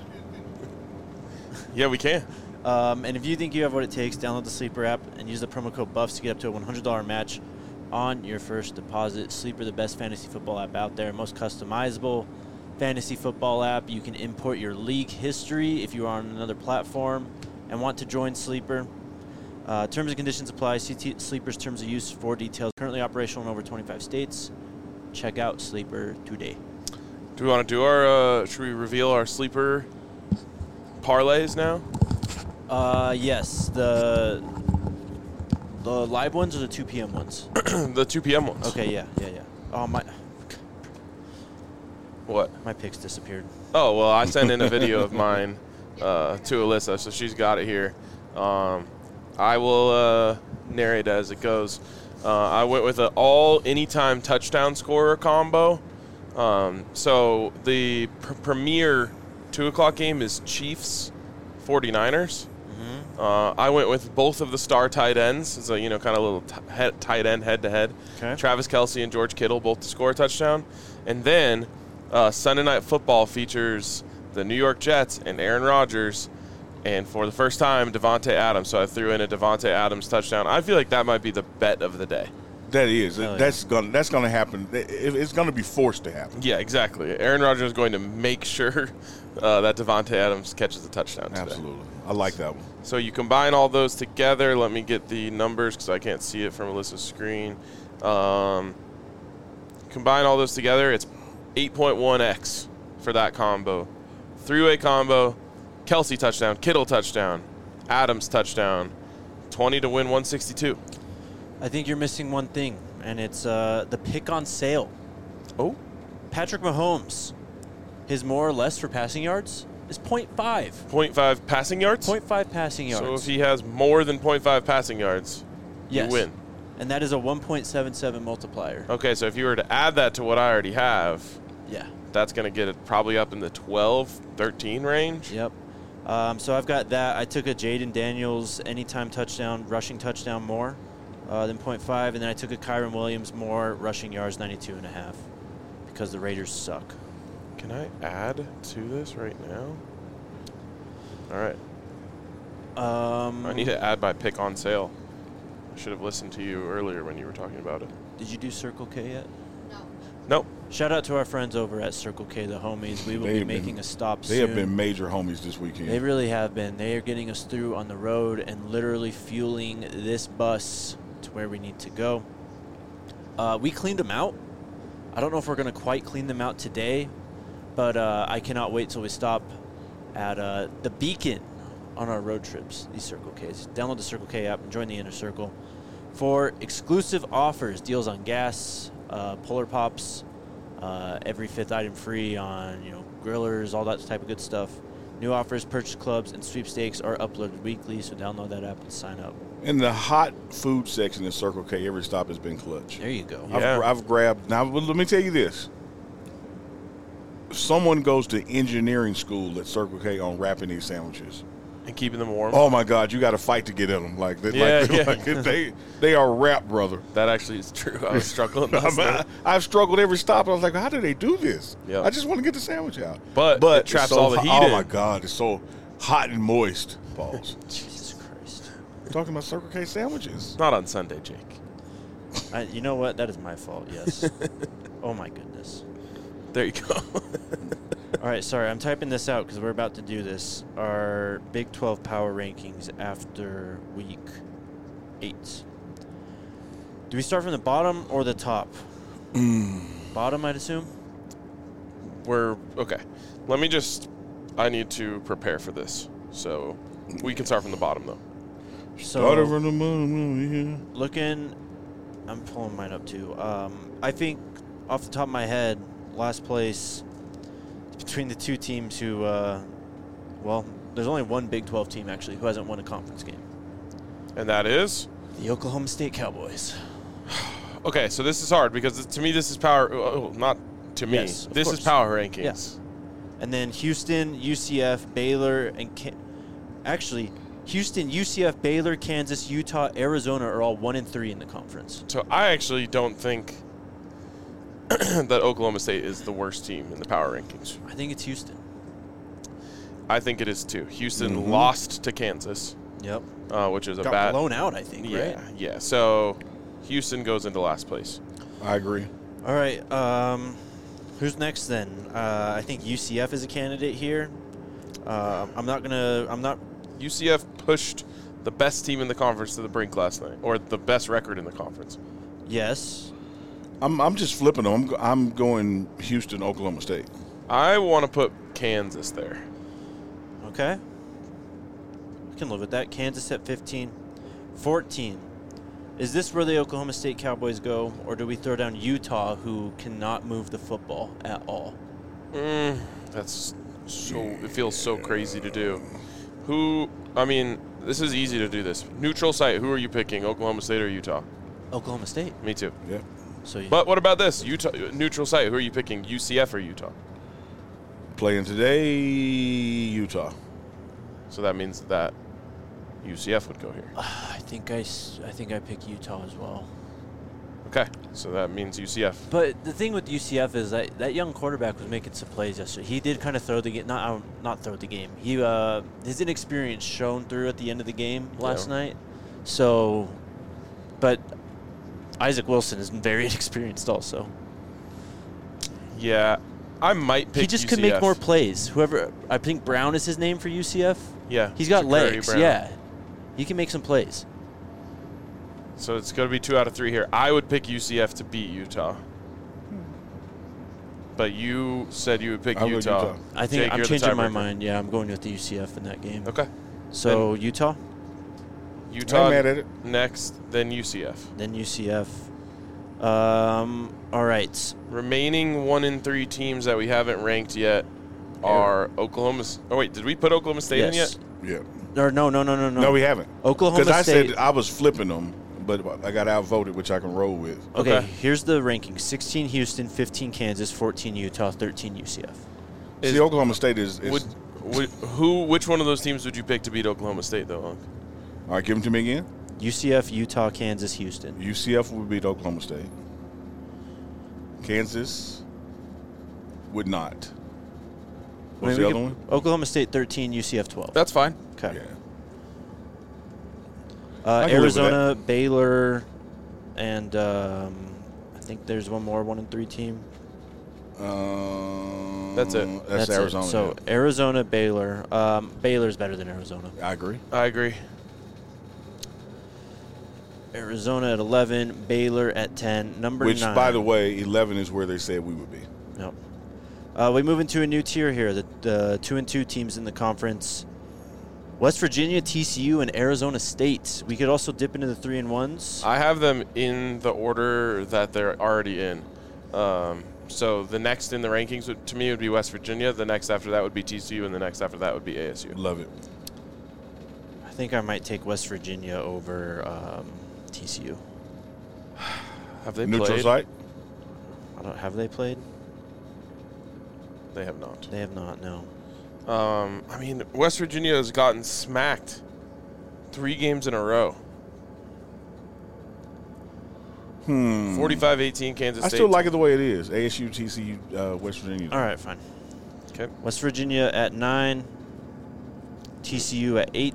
[SPEAKER 2] Yeah, we can.
[SPEAKER 1] And if you think you have what it takes, download the Sleeper app and use the promo code BUFFS to get up to a $100 match on your first deposit. Sleeper, the best fantasy football app out there, most customizable fantasy football app. You can import your league history if you are on another platform and want to join Sleeper. Terms and conditions apply. See Sleeper's terms of use for details. Currently operational in over 25 states. Check out Sleeper today.
[SPEAKER 2] Do we want to do our, should we reveal our Sleeper parlays now?
[SPEAKER 1] Yes. The live ones or the 2 p.m. ones?
[SPEAKER 2] The 2 p.m. ones.
[SPEAKER 1] Okay, yeah. Oh,
[SPEAKER 2] What?
[SPEAKER 1] my picks disappeared.
[SPEAKER 2] Oh, well, I sent in a video of mine to Alyssa, so she's got it here. I will narrate as it goes. I went with an all-anytime touchdown scorer combo. So the premier 2 o'clock game is Chiefs 49ers. I went with both of the star tight ends. So, kind of a little tight end head-to-head.
[SPEAKER 1] Okay.
[SPEAKER 2] Travis Kelce and George Kittle both to score a touchdown. And then Sunday Night Football features the New York Jets and Aaron Rodgers. And for the first time, Devontae Adams. So I threw in a Devontae Adams touchdown. I feel like that might be the bet of the day.
[SPEAKER 3] That is.
[SPEAKER 1] Oh,
[SPEAKER 3] That's gonna happen. It's gonna be forced to happen.
[SPEAKER 2] Yeah, exactly. Aaron Rodgers is going to make sure that Devontae Adams catches a touchdown today.
[SPEAKER 3] Absolutely. I like that one.
[SPEAKER 2] So you combine all those together. Let me get the numbers because I can't see it from Alyssa's screen. Combine all those together, it's 8.1x for that combo. 3-way combo, Kelce touchdown, Kittle touchdown, Adams touchdown, 20 to win 162.
[SPEAKER 1] I think you're missing one thing, and it's the pick on sale.
[SPEAKER 2] Oh?
[SPEAKER 1] Patrick Mahomes, his more or less for passing yards is 0.5.
[SPEAKER 2] 0.5 passing yards?
[SPEAKER 1] 0.5 passing yards.
[SPEAKER 2] So if he has more than 0.5 passing yards,
[SPEAKER 1] yes.
[SPEAKER 2] you win.
[SPEAKER 1] And that is a 1.77 multiplier.
[SPEAKER 2] Okay, so if you were to add that to what I already have,
[SPEAKER 1] Yeah.
[SPEAKER 2] that's going to get it probably up in the 12, 13 range.
[SPEAKER 1] Yep. So I've got that. I took a Jaden Daniels anytime touchdown, rushing touchdown more than 0.5. And then I took a Kyron Williams more, rushing yards 92.5 because the Raiders suck.
[SPEAKER 2] Can I add to this right now? All right. I need to add my pick on sale. I should have listened to you earlier when you were talking about it.
[SPEAKER 1] Did you do Circle K yet?
[SPEAKER 2] Nope.
[SPEAKER 1] Shout out to our friends over at Circle K, the homies. We will be making a stop soon.
[SPEAKER 3] They have been major homies this weekend.
[SPEAKER 1] They really have been. They are getting us through on the road and literally fueling this bus to where we need to go. We cleaned them out. I don't know if we're going to quite clean them out today, but I cannot wait till we stop at the Beacon on our road trips, these Circle Ks. Download the Circle K app and join the Inner Circle for exclusive offers, deals on gas, Polar Pops, every 5th item free on grillers, all that type of good stuff. New offers, purchase clubs, and sweepstakes are uploaded weekly, so download that app and sign up.
[SPEAKER 3] In the hot food section in Circle K, every stop has been clutch.
[SPEAKER 1] There you go.
[SPEAKER 2] Yeah.
[SPEAKER 3] I've grabbed. Now, let me tell you this. Someone goes to engineering school at Circle K on wrapping these sandwiches.
[SPEAKER 2] And keeping them warm.
[SPEAKER 3] Oh, my God. You got to fight to get in them. They are wrapped, brother.
[SPEAKER 2] That actually is true. I was struggling.
[SPEAKER 3] I've struggled every stop. I was like, how do they do this?
[SPEAKER 2] Yep.
[SPEAKER 3] I just want to get the sandwich out.
[SPEAKER 2] But it traps
[SPEAKER 3] it's so
[SPEAKER 2] all the
[SPEAKER 3] hot.
[SPEAKER 2] heat in.
[SPEAKER 3] Oh, my God. It's so hot and moist. Balls.
[SPEAKER 1] Jesus Christ.
[SPEAKER 3] We're talking about Circle K sandwiches.
[SPEAKER 2] Not on Sunday, Jake.
[SPEAKER 1] You know what? That is my fault, yes. Oh, my goodness.
[SPEAKER 2] There you go.
[SPEAKER 1] All right, sorry, I'm typing this out because we're about to do this. Our Big 12 power rankings after week 8. Do we start from the bottom or the top? Bottom, I'd assume?
[SPEAKER 2] We're okay. I need to prepare for this. So we can start from the bottom, though.
[SPEAKER 3] Started from the moon,
[SPEAKER 1] looking, I'm pulling mine up too. I think off the top of my head, last place between the two teams who, there's only one Big 12 team actually who hasn't won a conference game.
[SPEAKER 2] And that is?
[SPEAKER 1] The Oklahoma State Cowboys.
[SPEAKER 2] Okay, so this is hard because to me this is power. Not to me.
[SPEAKER 1] Yes, of
[SPEAKER 2] this
[SPEAKER 1] course.
[SPEAKER 2] is power rankings.
[SPEAKER 1] Yeah. And then Houston, UCF, Baylor, and Houston, UCF, Baylor, Kansas, Utah, Arizona are all 1-3 in the conference.
[SPEAKER 2] So I actually don't think that Oklahoma State is the worst team in the power rankings.
[SPEAKER 1] I think it's Houston.
[SPEAKER 2] I think it is too. Houston lost to Kansas.
[SPEAKER 1] Yep.
[SPEAKER 2] Which is
[SPEAKER 1] Got blown out, I think, right?
[SPEAKER 2] Yeah. So Houston goes into last place.
[SPEAKER 3] I agree.
[SPEAKER 1] All right. Who's next then? I think UCF is a candidate here.
[SPEAKER 2] UCF pushed the best team in the conference to the brink last night, or the best record in the conference.
[SPEAKER 1] Yes.
[SPEAKER 3] I'm just flipping them. I'm going Houston, Oklahoma State.
[SPEAKER 2] I want to put Kansas there.
[SPEAKER 1] Okay. I can live with that. Kansas at 15. 14. Is this where the Oklahoma State Cowboys go, or do we throw down Utah, who cannot move the football at all?
[SPEAKER 2] That's so. It feels so crazy to do. This is easy to do this. Neutral site. Who are you picking, Oklahoma State or Utah?
[SPEAKER 1] Oklahoma State.
[SPEAKER 2] Me too.
[SPEAKER 3] Yeah.
[SPEAKER 1] So.
[SPEAKER 2] But what about this? Utah neutral site. Who are you picking, UCF or Utah?
[SPEAKER 3] Playing today, Utah.
[SPEAKER 2] So that means that UCF would go here.
[SPEAKER 1] I think I pick Utah as well.
[SPEAKER 2] Okay, so that means UCF.
[SPEAKER 1] But the thing with UCF is that young quarterback was making some plays yesterday. He did kind of throw the game, not throw the game. He his inexperience shone through at the end of the game last night. So, but Isaac Wilson is very inexperienced also.
[SPEAKER 2] Yeah, I might pick.
[SPEAKER 1] He just
[SPEAKER 2] UCF.
[SPEAKER 1] could make more plays. Whoever, I think Brown is his name for UCF.
[SPEAKER 2] Yeah,
[SPEAKER 1] he's got
[SPEAKER 2] Sha'Carri
[SPEAKER 1] legs.
[SPEAKER 2] Brown.
[SPEAKER 1] Yeah, he can make some plays.
[SPEAKER 2] So it's going to be 2 out of 3 here. I would pick UCF to beat Utah. But you said you would pick Utah.
[SPEAKER 1] I think
[SPEAKER 2] Jake,
[SPEAKER 1] I'm
[SPEAKER 2] you're the
[SPEAKER 1] changing my
[SPEAKER 2] tiebreaker.
[SPEAKER 1] mind. Yeah, I'm going with the UCF in that game.
[SPEAKER 2] Okay.
[SPEAKER 1] So Utah,
[SPEAKER 3] I ain't mad at it.
[SPEAKER 2] next, then UCF.
[SPEAKER 1] then UCF. All right.
[SPEAKER 2] Remaining 1 and 3 teams that we haven't ranked yet are Oklahoma. Oh wait, did we put Oklahoma State in yet?
[SPEAKER 3] Yeah.
[SPEAKER 1] Or no.
[SPEAKER 3] No, we haven't.
[SPEAKER 1] Oklahoma
[SPEAKER 3] Because I
[SPEAKER 1] State.
[SPEAKER 3] said I was flipping them, but I got outvoted, which I can roll with.
[SPEAKER 1] Okay,
[SPEAKER 2] Okay.
[SPEAKER 1] here's the rankings: 16 Houston, 15 Kansas, 14 Utah, 13 UCF.
[SPEAKER 3] See, Oklahoma State is
[SPEAKER 2] Which one of those teams would you pick to beat Oklahoma State though? Unc?
[SPEAKER 3] all right, give them to me again.
[SPEAKER 1] UCF, Utah, Kansas, Houston.
[SPEAKER 3] UCF would beat Oklahoma State. Kansas would not. What's the other one?
[SPEAKER 1] Oklahoma State 13, UCF 12.
[SPEAKER 2] That's fine.
[SPEAKER 1] Okay.
[SPEAKER 3] Yeah. I can live with
[SPEAKER 1] Arizona, Baylor, and I think there's one more 1 and 3 team.
[SPEAKER 2] That's it.
[SPEAKER 3] That's Arizona.
[SPEAKER 1] So Arizona, Baylor. Baylor's better than Arizona.
[SPEAKER 3] I agree.
[SPEAKER 2] I agree.
[SPEAKER 1] Arizona at 11, Baylor at 10, number 9.
[SPEAKER 3] Which, by the way, 11 is where they said we would be.
[SPEAKER 1] Yep. We move into a new tier here. The 2 and 2 teams in the conference: West Virginia, TCU, and Arizona State. We could also dip into the 3 and 1s.
[SPEAKER 2] I have them in the order that they're already in. So the next in the rankings to me would be West Virginia. The next after that would be TCU, and the next after that would be ASU.
[SPEAKER 3] Love it.
[SPEAKER 1] I think I might take West Virginia over TCU.
[SPEAKER 2] Have they
[SPEAKER 3] Neutral
[SPEAKER 2] played?
[SPEAKER 3] site?
[SPEAKER 1] Have they played?
[SPEAKER 2] They have not.
[SPEAKER 1] They have not. No.
[SPEAKER 2] West Virginia has gotten smacked 3 games in a row. 45-18 Kansas
[SPEAKER 3] I
[SPEAKER 2] State.
[SPEAKER 3] still like it the way it is. ASU, TCU, West Virginia.
[SPEAKER 1] All right, fine.
[SPEAKER 2] Okay.
[SPEAKER 1] West Virginia at 9, TCU at 8,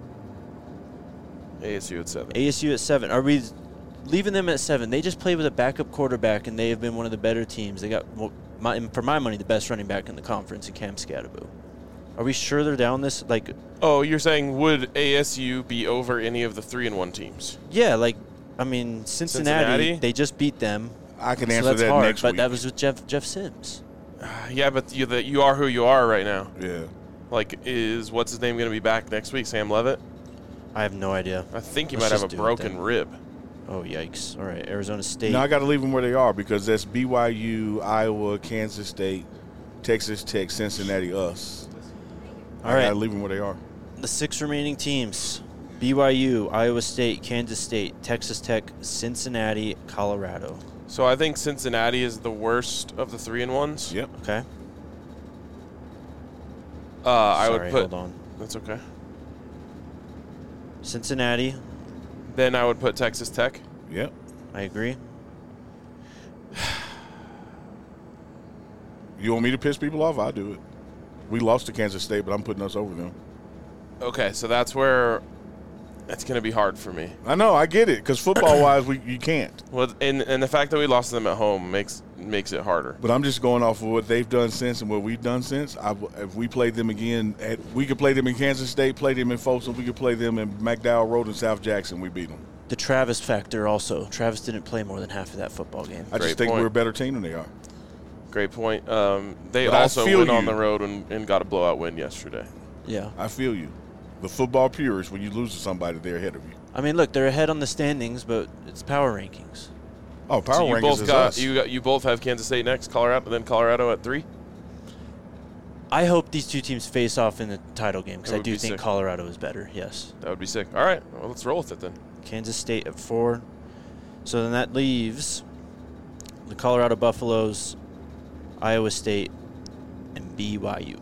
[SPEAKER 2] ASU at 7.
[SPEAKER 1] ASU at 7. Are we leaving them at 7? They just played with a backup quarterback, and they have been one of the better teams. They got, for my money, the best running back in the conference in Cam Scatterbo. Are we sure they're down this?
[SPEAKER 2] Oh, you're saying would ASU be over any of the 3 and 1 teams?
[SPEAKER 1] Yeah, Cincinnati, they just beat them.
[SPEAKER 3] I can
[SPEAKER 1] so
[SPEAKER 3] answer
[SPEAKER 1] that's
[SPEAKER 3] that
[SPEAKER 1] hard,
[SPEAKER 3] next
[SPEAKER 1] but
[SPEAKER 3] week.
[SPEAKER 1] that was with Jeff Sims.
[SPEAKER 2] Yeah, but you are who you are right now.
[SPEAKER 3] Yeah.
[SPEAKER 2] Is what's his name going to be back next week? Sam Levitt?
[SPEAKER 1] I have no idea.
[SPEAKER 2] I think he
[SPEAKER 1] Let's
[SPEAKER 2] might have
[SPEAKER 1] just
[SPEAKER 2] a
[SPEAKER 1] do it
[SPEAKER 2] broken
[SPEAKER 1] then.
[SPEAKER 2] rib.
[SPEAKER 1] Oh, yikes. All right, Arizona State.
[SPEAKER 3] No, I got to leave them where they are because that's BYU, Iowa, Kansas State, Texas Tech, Cincinnati, us.
[SPEAKER 1] All
[SPEAKER 3] I
[SPEAKER 1] right.
[SPEAKER 3] got to leave them where they are.
[SPEAKER 1] The 6 remaining teams: BYU, Iowa State, Kansas State, Texas Tech, Cincinnati, Colorado.
[SPEAKER 2] So I think Cincinnati is the worst of the 3 and 1s.
[SPEAKER 3] Yep.
[SPEAKER 1] Okay.
[SPEAKER 2] I
[SPEAKER 1] Sorry,
[SPEAKER 2] would put.
[SPEAKER 1] hold on.
[SPEAKER 2] That's okay.
[SPEAKER 1] Cincinnati,
[SPEAKER 2] Then I would put Texas Tech.
[SPEAKER 3] Yep.
[SPEAKER 1] I agree.
[SPEAKER 3] You want me to piss people off? I'll do it. We lost to Kansas State, but I'm putting us over them.
[SPEAKER 2] Okay, so that's where it's going to be hard for me.
[SPEAKER 3] I know. I get it because football-wise, you can't.
[SPEAKER 2] Well, and the fact that we lost to them at home makes makes it harder.
[SPEAKER 3] But I'm just going off of what they've done since and what we've done since. If we played them again, we could play them in Kansas State, play them in Folsom, we could play them in McDowell Road and South Jackson, we beat them.
[SPEAKER 1] The Travis factor also. Travis didn't play more than half of that football game.
[SPEAKER 3] I just think we're a better team than they are.
[SPEAKER 2] Great point. They
[SPEAKER 3] But
[SPEAKER 2] also went on
[SPEAKER 3] you.
[SPEAKER 2] the road and got a blowout win yesterday.
[SPEAKER 1] Yeah.
[SPEAKER 3] I feel you. The football purists, when you lose to somebody, they're ahead of you.
[SPEAKER 1] I mean, look, they're ahead on the standings, but it's power rankings.
[SPEAKER 3] Oh, power
[SPEAKER 2] So you
[SPEAKER 3] rankings
[SPEAKER 2] both
[SPEAKER 3] is
[SPEAKER 2] got
[SPEAKER 3] us.
[SPEAKER 2] you both have Kansas State next, Colorado, then Colorado at 3.
[SPEAKER 1] I hope these two teams face off in the title game because
[SPEAKER 2] That
[SPEAKER 1] I
[SPEAKER 2] would
[SPEAKER 1] do
[SPEAKER 2] be
[SPEAKER 1] think
[SPEAKER 2] sick.
[SPEAKER 1] Colorado is better, yes.
[SPEAKER 2] That would be sick. All right, well, let's roll with it then.
[SPEAKER 1] Kansas State at 4. So then that leaves the Colorado Buffaloes, Iowa State, and BYU.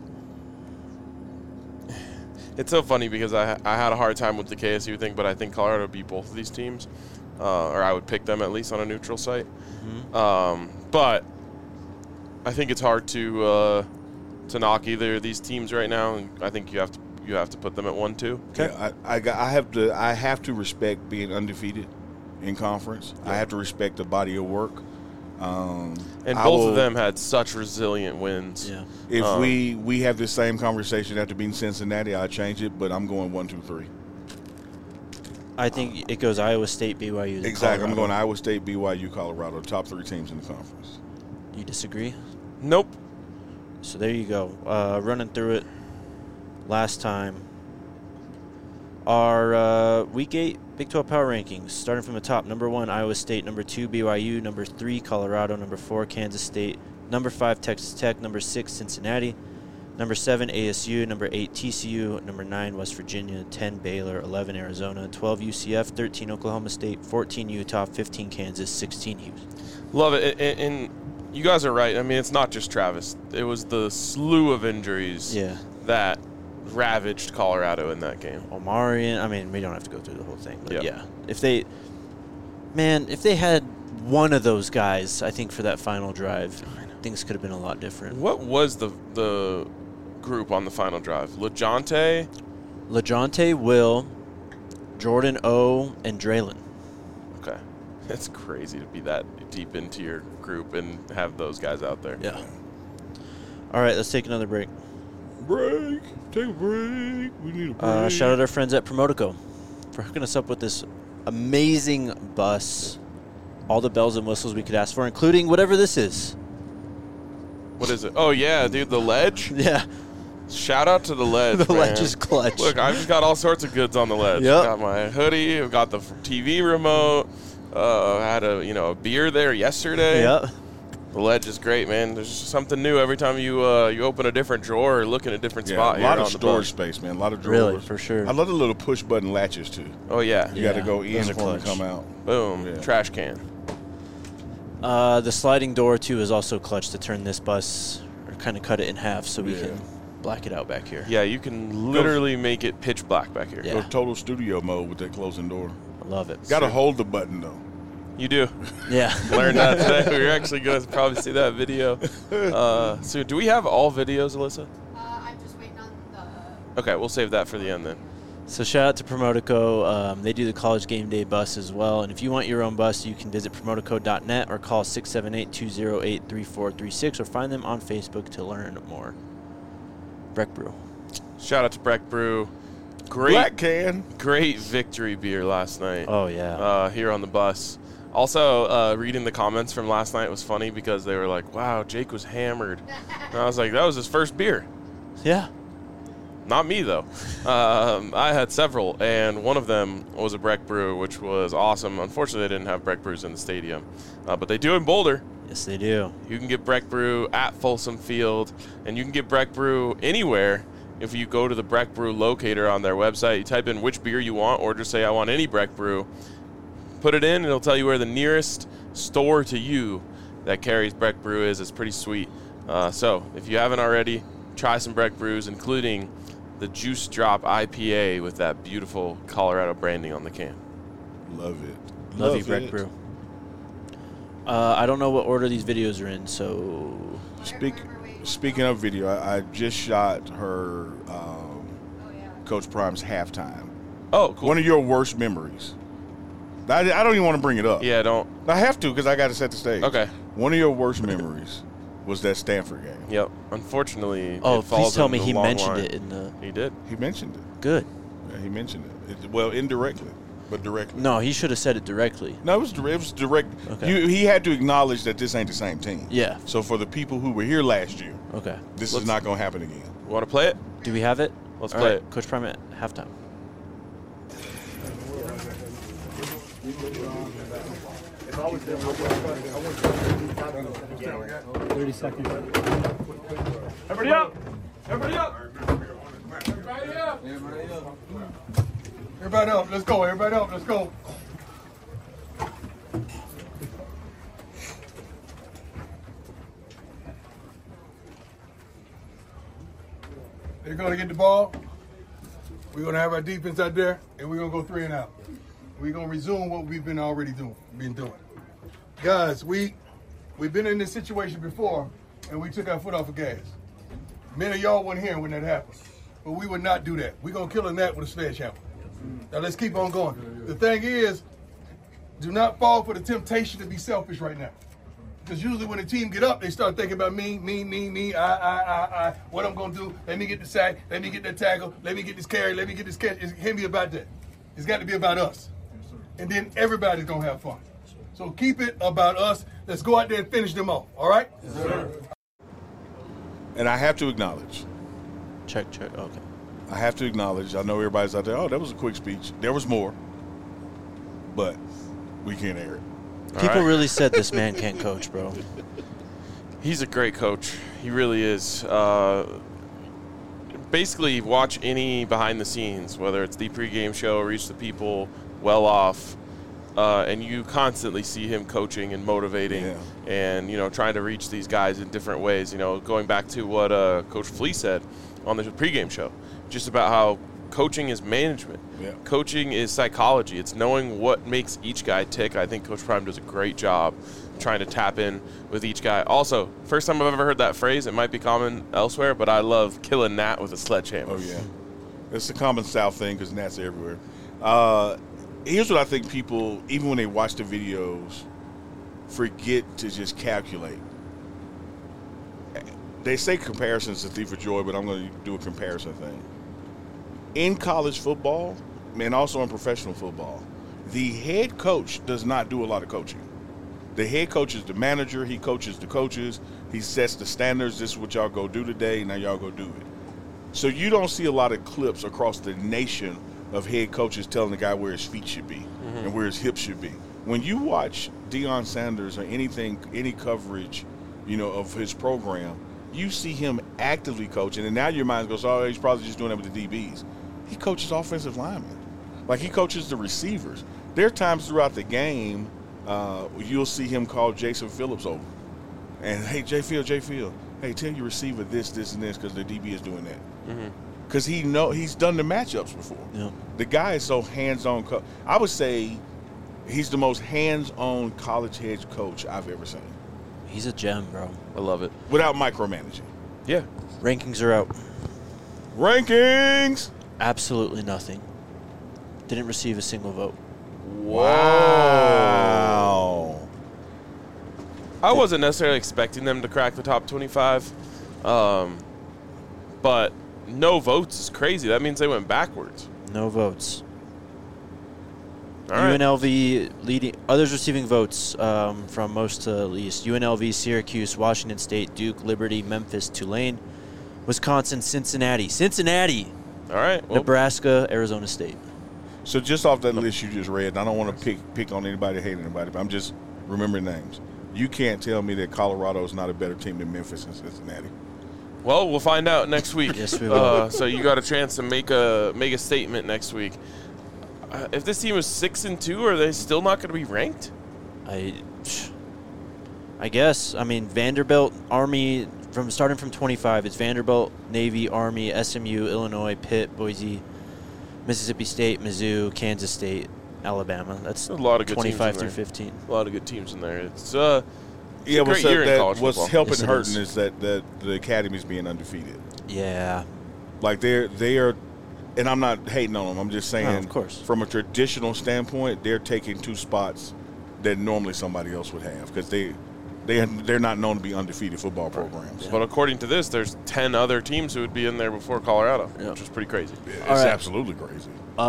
[SPEAKER 2] It's so funny because I had a hard time with the KSU thing, but I think Colorado beat both of these teams, or I would pick them at least on a neutral site. But I think it's hard to knock either of these teams right now, and I think you have to put them at 1-2.
[SPEAKER 1] Okay.
[SPEAKER 3] Yeah, I have to respect being undefeated in conference. I have to respect the body of work.
[SPEAKER 2] And both of them had such resilient wins.
[SPEAKER 1] Yeah.
[SPEAKER 3] If we have this same conversation after beating Cincinnati, I'll change it, but I'm going 1, 2, 3.
[SPEAKER 1] I think it goes Iowa State, BYU. then
[SPEAKER 3] Exactly. I'm
[SPEAKER 1] Colorado.
[SPEAKER 3] going Iowa State, BYU, Colorado, top 3 teams in the conference.
[SPEAKER 1] You disagree?
[SPEAKER 2] Nope.
[SPEAKER 1] So there you go. Running through it last time. Our Week 8 Big 12 Power Rankings, starting from the top. Number 1, Iowa State. Number 2, BYU. Number 3, Colorado. Number 4, Kansas State. Number 5, Texas Tech. Number 6, Cincinnati. Number 7, ASU. Number 8, TCU. Number 9, West Virginia. 10, Baylor. 11, Arizona. 12, UCF. 13, Oklahoma State. 14, Utah. 15, Kansas. 16, Houston.
[SPEAKER 2] Love it. And you guys are right. I mean, it's not just Travis. It was the slew of injuries that ravaged Colorado in that game.
[SPEAKER 1] Omarion. I mean, we don't have to go through the whole thing, but
[SPEAKER 2] Yep.
[SPEAKER 1] yeah. If they had one of those guys, I think for that final drive, things could have been a lot different.
[SPEAKER 2] What was the group on the final drive? LeJohntay?
[SPEAKER 1] Will, Jordan O, and Draylon.
[SPEAKER 2] Okay. It's crazy to be that deep into your group and have those guys out there.
[SPEAKER 1] Yeah. All right, let's take another break.
[SPEAKER 3] Break. Take a break. We need a break.
[SPEAKER 1] Shout out our friends at Promotico for hooking us up with this amazing bus. All the bells and whistles we could ask for, including whatever this is.
[SPEAKER 2] What is it? Oh, yeah, dude, the Ledge?
[SPEAKER 1] Yeah.
[SPEAKER 2] Shout out to the Ledge,
[SPEAKER 1] The
[SPEAKER 2] man.
[SPEAKER 1] Ledge is clutch.
[SPEAKER 2] Look, I've just got all sorts of goods on the Ledge.
[SPEAKER 1] Yep.
[SPEAKER 2] Got my hoodie. I've got the TV remote. I had a beer there yesterday.
[SPEAKER 1] Yep.
[SPEAKER 2] The Ledge is great, man. There's just something new every time you open a different drawer or look in a different spot
[SPEAKER 3] a
[SPEAKER 2] here
[SPEAKER 3] lot
[SPEAKER 2] on
[SPEAKER 3] of
[SPEAKER 2] the
[SPEAKER 3] storage
[SPEAKER 2] bus.
[SPEAKER 3] space, man. A lot of drawers.
[SPEAKER 1] Really, for sure.
[SPEAKER 3] I love the little push button latches too.
[SPEAKER 2] Oh, yeah.
[SPEAKER 3] You got to
[SPEAKER 1] Yeah,
[SPEAKER 3] go in
[SPEAKER 1] those are
[SPEAKER 3] for them to
[SPEAKER 1] clutch.
[SPEAKER 3] come out.
[SPEAKER 2] Boom.
[SPEAKER 3] Yeah.
[SPEAKER 2] Trash can.
[SPEAKER 1] The sliding door, too, is also clutch to turn this bus or kind of cut it in half so we
[SPEAKER 3] Yeah.
[SPEAKER 1] can black it out back here.
[SPEAKER 2] Yeah, you can literally make it pitch black back here.
[SPEAKER 1] Yeah.
[SPEAKER 3] Go total studio mode with that closing door.
[SPEAKER 1] I love it.
[SPEAKER 3] Got to hold the button though.
[SPEAKER 2] You do.
[SPEAKER 1] Yeah.
[SPEAKER 2] Learned that today. We're actually going to probably see that video. So do we have all videos, Alyssa?
[SPEAKER 4] I'm just waiting on the.
[SPEAKER 2] Okay, we'll save that for the end then.
[SPEAKER 1] So shout out to Promotico. They do the college game day bus as well. And if you want your own bus, you can visit promotico.net or call 678-208-3436 or find them on Facebook to learn more. Breck Brew.
[SPEAKER 2] Shout out to Breck Brew.
[SPEAKER 3] Black can.
[SPEAKER 2] Great victory beer last night.
[SPEAKER 1] Oh, yeah.
[SPEAKER 2] Here on the bus. Also, reading the comments from last night was funny because they were like, wow, Jake was hammered. And I was like, that was his first beer.
[SPEAKER 1] Yeah.
[SPEAKER 2] Not me, though. I had several, and one of them was a Breck Brew, which was awesome. Unfortunately, they didn't have Breck Brews in the stadium. But they do in Boulder.
[SPEAKER 1] Yes, they do.
[SPEAKER 2] You can get Breck Brew at Folsom Field, and you can get Breck Brew anywhere. If you go to the Breck Brew locator on their website, you type in which beer you want, or just say, I want any Breck Brew. Put it in, and it'll tell you where the nearest store to you that carries Breck Brew is. It's pretty sweet. So if you haven't already, try some Breck Brews, including the Juice Drop IPA with that beautiful Colorado branding on the can.
[SPEAKER 3] Love it.
[SPEAKER 1] Love you, Breck Brew. I don't know what order these videos are in, so...
[SPEAKER 3] Speaking of video, I just shot her Coach Prime's halftime.
[SPEAKER 2] Oh, cool.
[SPEAKER 3] One of your worst memories. I don't even want to bring it up.
[SPEAKER 2] Yeah, don't.
[SPEAKER 3] I have to because I got to set the stage.
[SPEAKER 2] Okay.
[SPEAKER 3] one of your worst memories was that Stanford game.
[SPEAKER 2] Yep. Unfortunately,
[SPEAKER 1] Oh,
[SPEAKER 2] it falls
[SPEAKER 1] please tell
[SPEAKER 2] in
[SPEAKER 1] me
[SPEAKER 2] the
[SPEAKER 1] he
[SPEAKER 2] long
[SPEAKER 1] mentioned
[SPEAKER 2] line.
[SPEAKER 1] it in the.
[SPEAKER 2] He did.
[SPEAKER 3] He mentioned it.
[SPEAKER 1] Good.
[SPEAKER 3] Yeah, he mentioned it. Well, indirectly, but directly.
[SPEAKER 1] No, he should have said it directly.
[SPEAKER 3] No, it was direct.
[SPEAKER 1] Okay.
[SPEAKER 3] He had to acknowledge that this ain't the same team.
[SPEAKER 1] Yeah.
[SPEAKER 3] So for the people who were here last year,
[SPEAKER 1] Okay.
[SPEAKER 3] this is not going to happen again.
[SPEAKER 2] Want to play it?
[SPEAKER 1] Do we have it?
[SPEAKER 2] Let's
[SPEAKER 1] All
[SPEAKER 2] play
[SPEAKER 1] right,
[SPEAKER 2] it.
[SPEAKER 1] Coach Prime at halftime.
[SPEAKER 5] Everybody up! Everybody up! Everybody up! Let's go! Everybody up! Let's go! They're gonna get the ball. We're gonna have our defense out there, and we're gonna go 3 and out. We're gonna resume what we've been doing. Guys, we've been in this situation before, and we took our foot off the gas. Many of y'all weren't here when that happened, but we would not do that. We're gonna kill a gnat with a sledgehammer. Now let's keep on going. The thing is, do not fall for the temptation to be selfish right now. Because usually when the team get up, they start thinking about me, I, what I'm gonna do, let me get the sack, let me get that tackle, let me get this carry, let me get this catch. It can't be about that. It's got to be about us. And then everybody's gonna have fun. So keep it about us. Let's go out there and finish them off, all right? Yes, sir.
[SPEAKER 3] And I have to acknowledge.
[SPEAKER 1] Check. Okay.
[SPEAKER 3] I have to acknowledge. I know everybody's out there. Oh, that was a quick speech. There was more, but we can't air it.
[SPEAKER 1] People
[SPEAKER 2] right.
[SPEAKER 1] really said this man can't coach, bro.
[SPEAKER 2] He's a great coach. He really is. Basically, watch any behind the scenes, whether it's the pregame show, Reach the People, Well Off, and you constantly see him coaching and motivating and, trying to reach these guys in different ways. Going back to what Coach Flea said on the pregame show, just about how coaching is management.
[SPEAKER 3] Yeah.
[SPEAKER 2] Coaching is psychology. It's knowing what makes each guy tick. I think Coach Prime does a great job trying to tap in with each guy. Also, first time I've ever heard that phrase. It might be common elsewhere, but I love kill a gnat with a sledgehammer.
[SPEAKER 3] Oh, yeah. It's a common South thing because gnats are everywhere. Here's what I think people, even when they watch the videos, forget to just calculate. They say comparisons is a thief of joy, but I'm going to do a comparison thing. In college football, and also in professional football, the head coach does not do a lot of coaching. The head coach is the manager. He coaches the coaches. He sets the standards. This is what y'all go do today. Now y'all go do it. So you don't see a lot of clips across the nation of head coaches telling the guy where his feet should be and where his hips should be. When you watch Deion Sanders or any coverage, of his program, you see him actively coaching, and now your mind goes, oh, he's probably just doing that with the DBs. He coaches offensive linemen. Like, he coaches the receivers. There are times throughout the game you'll see him call Jason Phillips over. And, hey, J. Field, hey, tell your receiver this, and this, because the DB is doing that. Because he's done the matchups before.
[SPEAKER 1] Yeah.
[SPEAKER 3] The guy is so hands-on. I would say he's the most hands-on college head coach I've ever seen.
[SPEAKER 1] He's a gem, bro.
[SPEAKER 2] I love it.
[SPEAKER 3] Without micromanaging.
[SPEAKER 2] Yeah.
[SPEAKER 1] Rankings are out.
[SPEAKER 3] Rankings!
[SPEAKER 1] Absolutely nothing. Didn't receive a single vote.
[SPEAKER 3] Wow.
[SPEAKER 2] I wasn't necessarily expecting them to crack the top 25, but no votes is crazy. That means they went backwards.
[SPEAKER 1] No votes.
[SPEAKER 2] All right.
[SPEAKER 1] UNLV leading. Others receiving votes from most to least. UNLV, Syracuse, Washington State, Duke, Liberty, Memphis, Tulane, Wisconsin, Cincinnati.
[SPEAKER 2] All right. Well,
[SPEAKER 1] Nebraska, Arizona State.
[SPEAKER 3] So just off that list you just read, and I don't want to pick on anybody, hate anybody, but I'm just remembering names. You can't tell me that Colorado is not a better team than Memphis and Cincinnati.
[SPEAKER 2] well, we'll find out next week.
[SPEAKER 1] Yes, we will.
[SPEAKER 2] So you got a chance to make a statement next week. If this team is 6-2, are they still not going to be ranked?
[SPEAKER 1] I guess. I mean, Vanderbilt, Army, starting from 25, it's Vanderbilt, Navy, Army, SMU, Illinois, Pitt, Boise, Mississippi State, Mizzou, Kansas State, Alabama. That's
[SPEAKER 2] a lot of good
[SPEAKER 1] 25
[SPEAKER 2] teams
[SPEAKER 1] through
[SPEAKER 2] in
[SPEAKER 1] 15.
[SPEAKER 2] A lot of good teams in there. It's a great year in college
[SPEAKER 3] what's
[SPEAKER 2] football.
[SPEAKER 3] helping
[SPEAKER 1] Yes, it
[SPEAKER 3] hurting
[SPEAKER 1] is.
[SPEAKER 3] is that the academy's being undefeated.
[SPEAKER 1] Yeah.
[SPEAKER 3] Like they are, and I'm not hating on them. I'm just saying,
[SPEAKER 1] No, of course.
[SPEAKER 3] from a traditional standpoint, they're taking two spots that normally somebody else would have because They're not known to be undefeated football programs.
[SPEAKER 2] But according to this, there's 10 other teams who would be in there before Colorado, which is pretty crazy.
[SPEAKER 3] It's
[SPEAKER 1] All right.
[SPEAKER 3] absolutely crazy.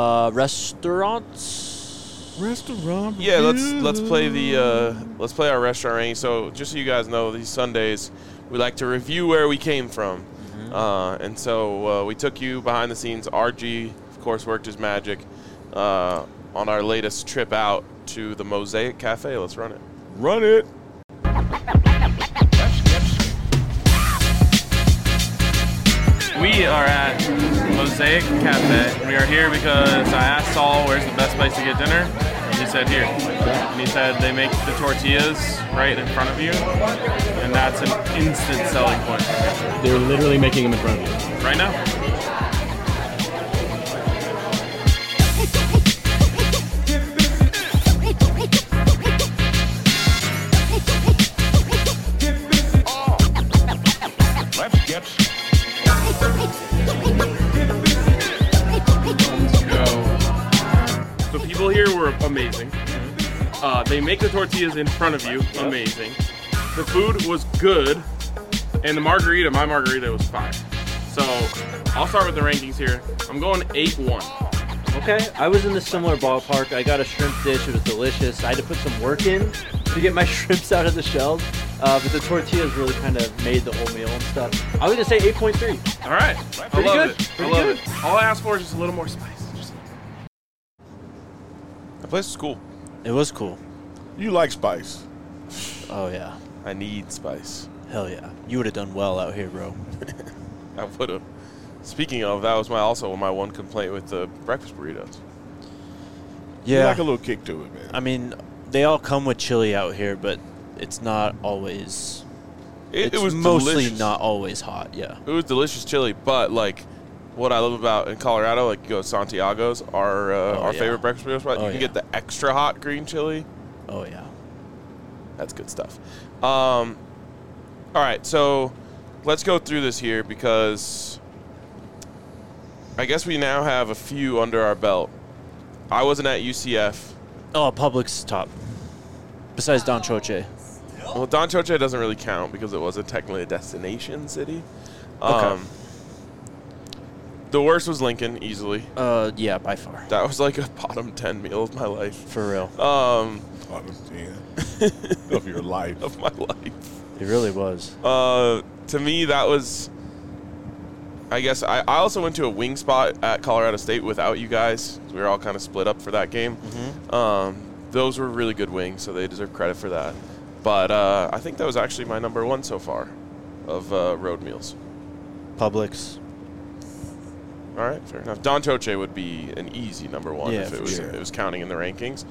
[SPEAKER 1] Restaurants.
[SPEAKER 3] Restaurant.
[SPEAKER 2] Yeah, let's play our restaurant ranking. So just so you guys know, these Sundays we like to review where we came from, and so we took you behind the scenes. RG, of course, worked his magic on our latest trip out to the Mosaic Cafe. Let's run it.
[SPEAKER 3] Run it.
[SPEAKER 6] We are at Mosaic Cafe. We are here because I asked Saul where's the best place to get dinner, and he said here. And he said they make the tortillas right in front of you, and that's an instant selling point.
[SPEAKER 7] They're literally making them in front of you.
[SPEAKER 6] Right now? The people here were amazing. They make the tortillas in front of you, amazing. The food was good, and my margarita was fire. So I'll start with the rankings here. I'm going 8-1.
[SPEAKER 1] Okay, I was in the similar ballpark. I got a shrimp dish. It was delicious. I had to put some work in to get my shrimps out of the shells. But the tortillas really kind of made the whole meal and stuff. I was going to say 8.3.
[SPEAKER 6] All right,
[SPEAKER 1] Pretty
[SPEAKER 6] I love
[SPEAKER 1] good.
[SPEAKER 6] it.
[SPEAKER 1] Pretty
[SPEAKER 6] I love
[SPEAKER 1] good.
[SPEAKER 6] it. All I asked for is just a little more spice.
[SPEAKER 2] That place is cool.
[SPEAKER 1] It was cool.
[SPEAKER 3] You like spice.
[SPEAKER 1] Oh, yeah.
[SPEAKER 2] I need spice.
[SPEAKER 1] Hell yeah. You would have done well out here, bro.
[SPEAKER 2] I would have. Speaking of, that was my one complaint with the breakfast burritos.
[SPEAKER 3] You
[SPEAKER 1] Yeah.
[SPEAKER 3] like a little kick to it, man.
[SPEAKER 1] I mean, they all come with chili out here, but it's not always.
[SPEAKER 2] It
[SPEAKER 1] It's
[SPEAKER 2] was
[SPEAKER 1] mostly
[SPEAKER 2] delicious.
[SPEAKER 1] not always hot. Yeah.
[SPEAKER 2] It was delicious chili, but like what I love about in Colorado, like you go to Santiago's, our
[SPEAKER 1] yeah.
[SPEAKER 2] favorite breakfast burrito spot.
[SPEAKER 1] Oh,
[SPEAKER 2] You can
[SPEAKER 1] yeah.
[SPEAKER 2] get the extra hot green chili.
[SPEAKER 1] Oh yeah.
[SPEAKER 2] That's good stuff. All right, so let's go through this here because I guess we now have a few under our belt. I wasn't at UCF.
[SPEAKER 1] Oh, Publix top. Besides Don Choche.
[SPEAKER 2] Well, Don Choche doesn't really count because it wasn't technically a destination city.
[SPEAKER 1] Okay.
[SPEAKER 2] The worst was Lincoln, easily.
[SPEAKER 1] Yeah, by far.
[SPEAKER 2] That was like a bottom 10 meal of my life.
[SPEAKER 1] For real.
[SPEAKER 3] Of your life.
[SPEAKER 2] Of my life.
[SPEAKER 1] It really was.
[SPEAKER 2] To me, that was. I guess I also went to a wing spot at Colorado State without you guys. We were all kind of split up for that game. Those were really good wings, so they deserve credit for that. But I think that was actually my number one so far of road meals.
[SPEAKER 1] Publix.
[SPEAKER 2] All right, fair enough. Don Choche would be an easy number one
[SPEAKER 1] Yeah,
[SPEAKER 2] if
[SPEAKER 1] for
[SPEAKER 2] it
[SPEAKER 3] sure.
[SPEAKER 2] was counting in the rankings.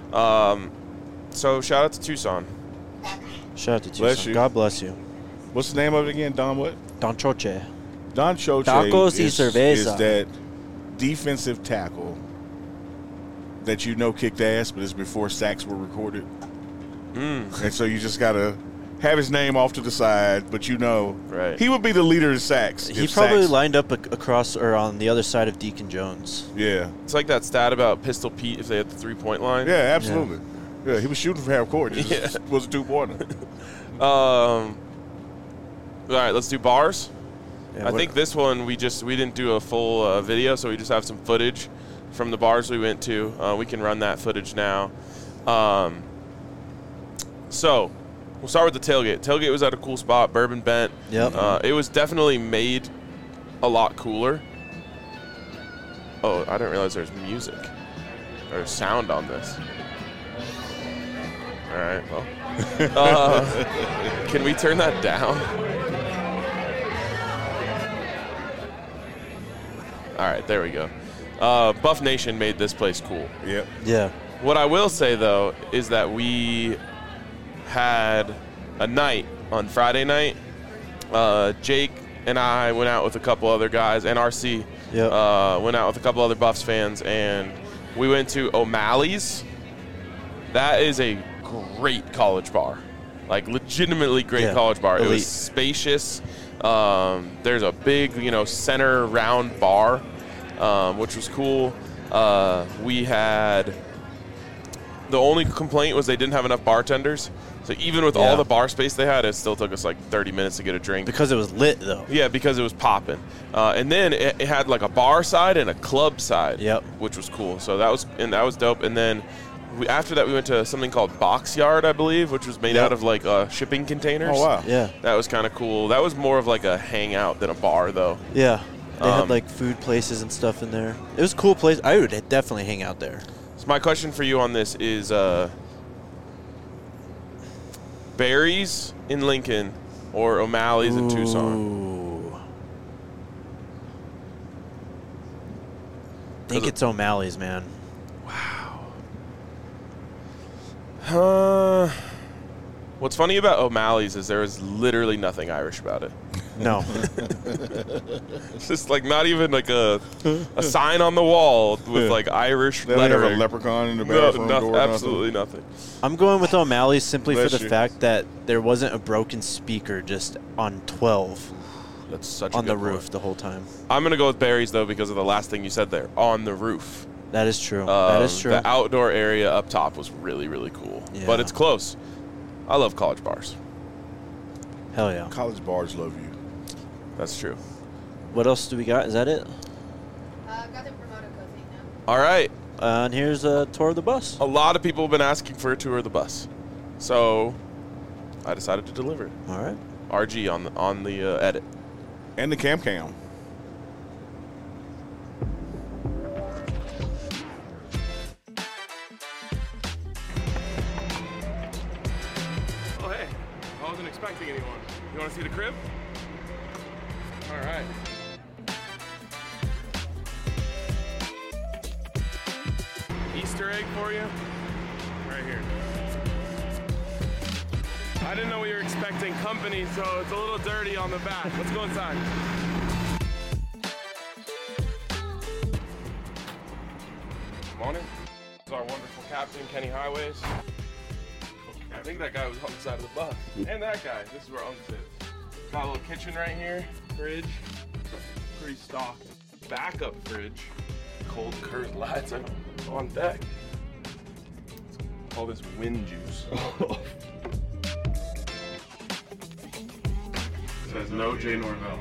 [SPEAKER 2] So shout out to Tucson.
[SPEAKER 1] Shout out to Tucson.
[SPEAKER 3] Bless you.
[SPEAKER 1] God bless you.
[SPEAKER 3] What's the name of it again? Don what?
[SPEAKER 1] Don Choche.
[SPEAKER 3] Don Choche
[SPEAKER 1] Tacos y
[SPEAKER 3] is
[SPEAKER 1] cerveza.
[SPEAKER 3] that defensive tackle that you know kicked ass, but it's before sacks were recorded. And so you just got to have his name off to the side, but you know
[SPEAKER 2] Right.
[SPEAKER 3] he would be the leader of sacks.
[SPEAKER 1] He
[SPEAKER 3] if
[SPEAKER 1] probably
[SPEAKER 3] sacks,
[SPEAKER 1] lined up across or on the other side of Deacon Jones.
[SPEAKER 3] Yeah.
[SPEAKER 2] It's like that stat about Pistol Pete if they had the 3-point line.
[SPEAKER 3] Yeah, absolutely. Yeah, he was shooting from half court. It just was a 2-pointer.
[SPEAKER 2] All right, let's do bars.
[SPEAKER 1] Yeah,
[SPEAKER 2] I think this one we didn't do a full video, so we just have some footage from the bars we went to. We can run that footage now. So we'll start with the tailgate. Tailgate was at a cool spot, Bourbon Bent.
[SPEAKER 1] Yep.
[SPEAKER 2] It was definitely made a lot cooler. Oh, I didn't realize there's music or sound on this. All right, well, can we turn that down? All right, there we go. Buff Nation made this place cool.
[SPEAKER 3] Yep.
[SPEAKER 1] Yeah.
[SPEAKER 2] What I will say, though, is that we had a night on Friday night. Jake and I went out with a couple other guys, and RC went out with a couple other Buffs fans, and we went to O'Malley's. That is a great college bar, like legitimately great college bar.
[SPEAKER 1] Elite.
[SPEAKER 2] It was spacious. There's a big, center round bar, which was cool. We had The only complaint was they didn't have enough bartenders. So even with
[SPEAKER 1] Yeah.
[SPEAKER 2] all the bar space they had, it still took us like 30 minutes to get a drink.
[SPEAKER 1] Because it was lit, though.
[SPEAKER 2] Yeah, because it was popping. And then it had like a bar side and a club side,
[SPEAKER 1] Yep.
[SPEAKER 2] which was cool. So that was dope. And then after that, we went to something called Box Yard, I believe, which was made
[SPEAKER 1] Yep.
[SPEAKER 2] out of like shipping containers.
[SPEAKER 3] Oh, wow.
[SPEAKER 1] Yeah.
[SPEAKER 2] That was kind of cool. That was more of like a hangout than a bar, though.
[SPEAKER 1] Yeah. They had like food places and stuff in there. It was a cool place. I would definitely hang out there.
[SPEAKER 2] So my question for you on this is Barry's in Lincoln or O'Malley's in Tucson?
[SPEAKER 1] Ooh. I think it's O'Malley's, man.
[SPEAKER 2] What's funny about O'Malley's is there is literally nothing Irish about it.
[SPEAKER 1] No.
[SPEAKER 2] It's just like not even like a sign on the wall with like Irish
[SPEAKER 3] They don't have
[SPEAKER 2] lettering.
[SPEAKER 3] a leprechaun in the
[SPEAKER 2] No,
[SPEAKER 3] bathroom
[SPEAKER 2] nothing,
[SPEAKER 3] door.
[SPEAKER 2] absolutely nothing.
[SPEAKER 1] I'm going with O'Malley's simply
[SPEAKER 3] Bless
[SPEAKER 1] for the
[SPEAKER 3] you.
[SPEAKER 1] fact that there wasn't a broken speaker just on 12
[SPEAKER 2] That's such a
[SPEAKER 1] on the
[SPEAKER 2] good point.
[SPEAKER 1] roof the whole time.
[SPEAKER 2] I'm gonna go with Barry's though because of the last thing you said there on the roof.
[SPEAKER 1] That is true. That is true.
[SPEAKER 2] The outdoor area up top was really, really cool.
[SPEAKER 1] Yeah.
[SPEAKER 2] But it's close. I love college bars.
[SPEAKER 1] Hell yeah.
[SPEAKER 3] College bars love you.
[SPEAKER 2] That's true.
[SPEAKER 1] What else do we got? Is that it?
[SPEAKER 4] Got the promoter code thing now.
[SPEAKER 2] All right.
[SPEAKER 1] And here's a tour of the bus.
[SPEAKER 2] A lot of people have been asking for a tour of the bus. So I decided to deliver it.
[SPEAKER 1] All right.
[SPEAKER 2] RG on the edit.
[SPEAKER 3] And the cam.
[SPEAKER 2] Oh, hey. I wasn't expecting anyone. You want to see the crib? All right. Easter egg for you? Right here. I didn't know we were expecting company, so it's a little dirty on the back. Let's go inside. Morning. This is our wonderful captain, Kenny Highways. I think that guy was on the side of the bus. And that guy. This is where Unc sits. Got a little kitchen right here. Fridge. Pretty stocked. Backup fridge. Cold curtain lights on deck. All this wind juice. Says no Jay Norvell.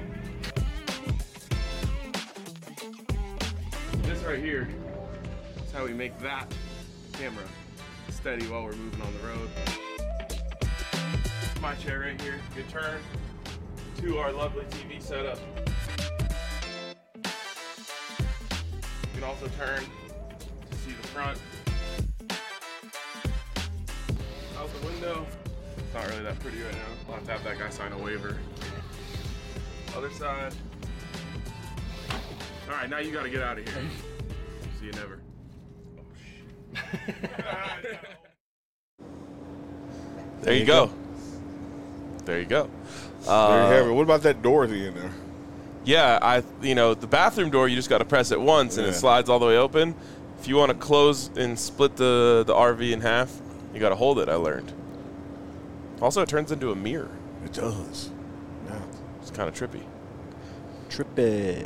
[SPEAKER 2] This right here is how we make that camera steady while we're moving on the road. My chair right here, good turn to our lovely TV setup. You can also turn to see the front. Out the window. It's not really that pretty right now. I'll have to have that guy sign a waiver. Other side. All right, now you got to get out of here. See you never. Oh, shit. There you go. There you go.
[SPEAKER 3] There you have it. What about that door at the end there?
[SPEAKER 2] Yeah, the bathroom door, you just got to press it once and it
[SPEAKER 3] Yeah.
[SPEAKER 2] slides all the way open. If you want to close and split the RV in half, you got to hold it, I learned. Also, it turns into a mirror.
[SPEAKER 3] It does. Yeah.
[SPEAKER 2] It's kind of trippy.
[SPEAKER 1] Trippy.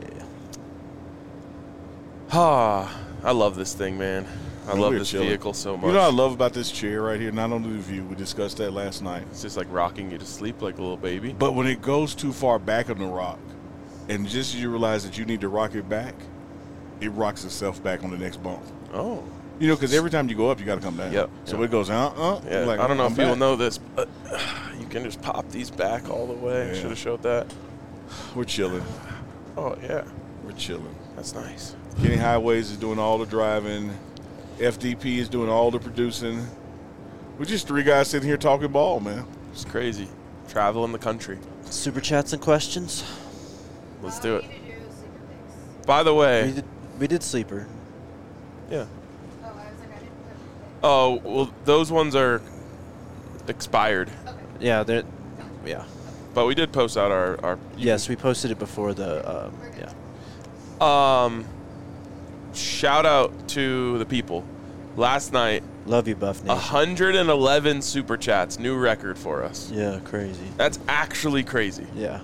[SPEAKER 2] Ah, I love this thing, man. I love
[SPEAKER 3] We're
[SPEAKER 2] this
[SPEAKER 3] chilling.
[SPEAKER 2] vehicle so much.
[SPEAKER 3] You know what I love about this chair right here? Not only the view, we discussed that last night.
[SPEAKER 2] It's just like rocking you to sleep like a little baby.
[SPEAKER 3] But when it goes too far back on the rock, and just as you realize that you need to rock it back, it rocks itself back on the next bump.
[SPEAKER 2] Oh.
[SPEAKER 3] You know, because every time you go up, you got to come down.
[SPEAKER 2] Yep.
[SPEAKER 3] So
[SPEAKER 2] Yep.
[SPEAKER 3] it goes,
[SPEAKER 2] Yeah,
[SPEAKER 3] You're like,
[SPEAKER 2] I don't know
[SPEAKER 3] I'm
[SPEAKER 2] if people
[SPEAKER 3] back.
[SPEAKER 2] know this, but you can just pop these back all the way.
[SPEAKER 3] Yeah.
[SPEAKER 2] Should have showed that.
[SPEAKER 3] We're chilling.
[SPEAKER 2] Oh, yeah.
[SPEAKER 3] We're chilling.
[SPEAKER 2] That's nice.
[SPEAKER 3] Kenny Highways is doing all the driving. FDP is doing all the producing. We're just three guys sitting here talking ball, man.
[SPEAKER 2] It's crazy. Traveling the country.
[SPEAKER 1] Super chats and questions.
[SPEAKER 2] Let's do it.
[SPEAKER 4] We need to do sleeper picks.
[SPEAKER 2] By the way,
[SPEAKER 1] We did sleeper.
[SPEAKER 2] yeah.
[SPEAKER 4] Oh, I was like, I didn't put
[SPEAKER 2] Oh, well, those ones are expired.
[SPEAKER 1] Yeah,
[SPEAKER 2] But we did post out our
[SPEAKER 1] yes, we posted it before the yeah.
[SPEAKER 2] Shout out to the people. Last night,
[SPEAKER 1] Love you, Buff Nation.
[SPEAKER 2] 111 super chats, new record for us.
[SPEAKER 1] Yeah, crazy.
[SPEAKER 2] That's actually crazy.
[SPEAKER 1] Yeah.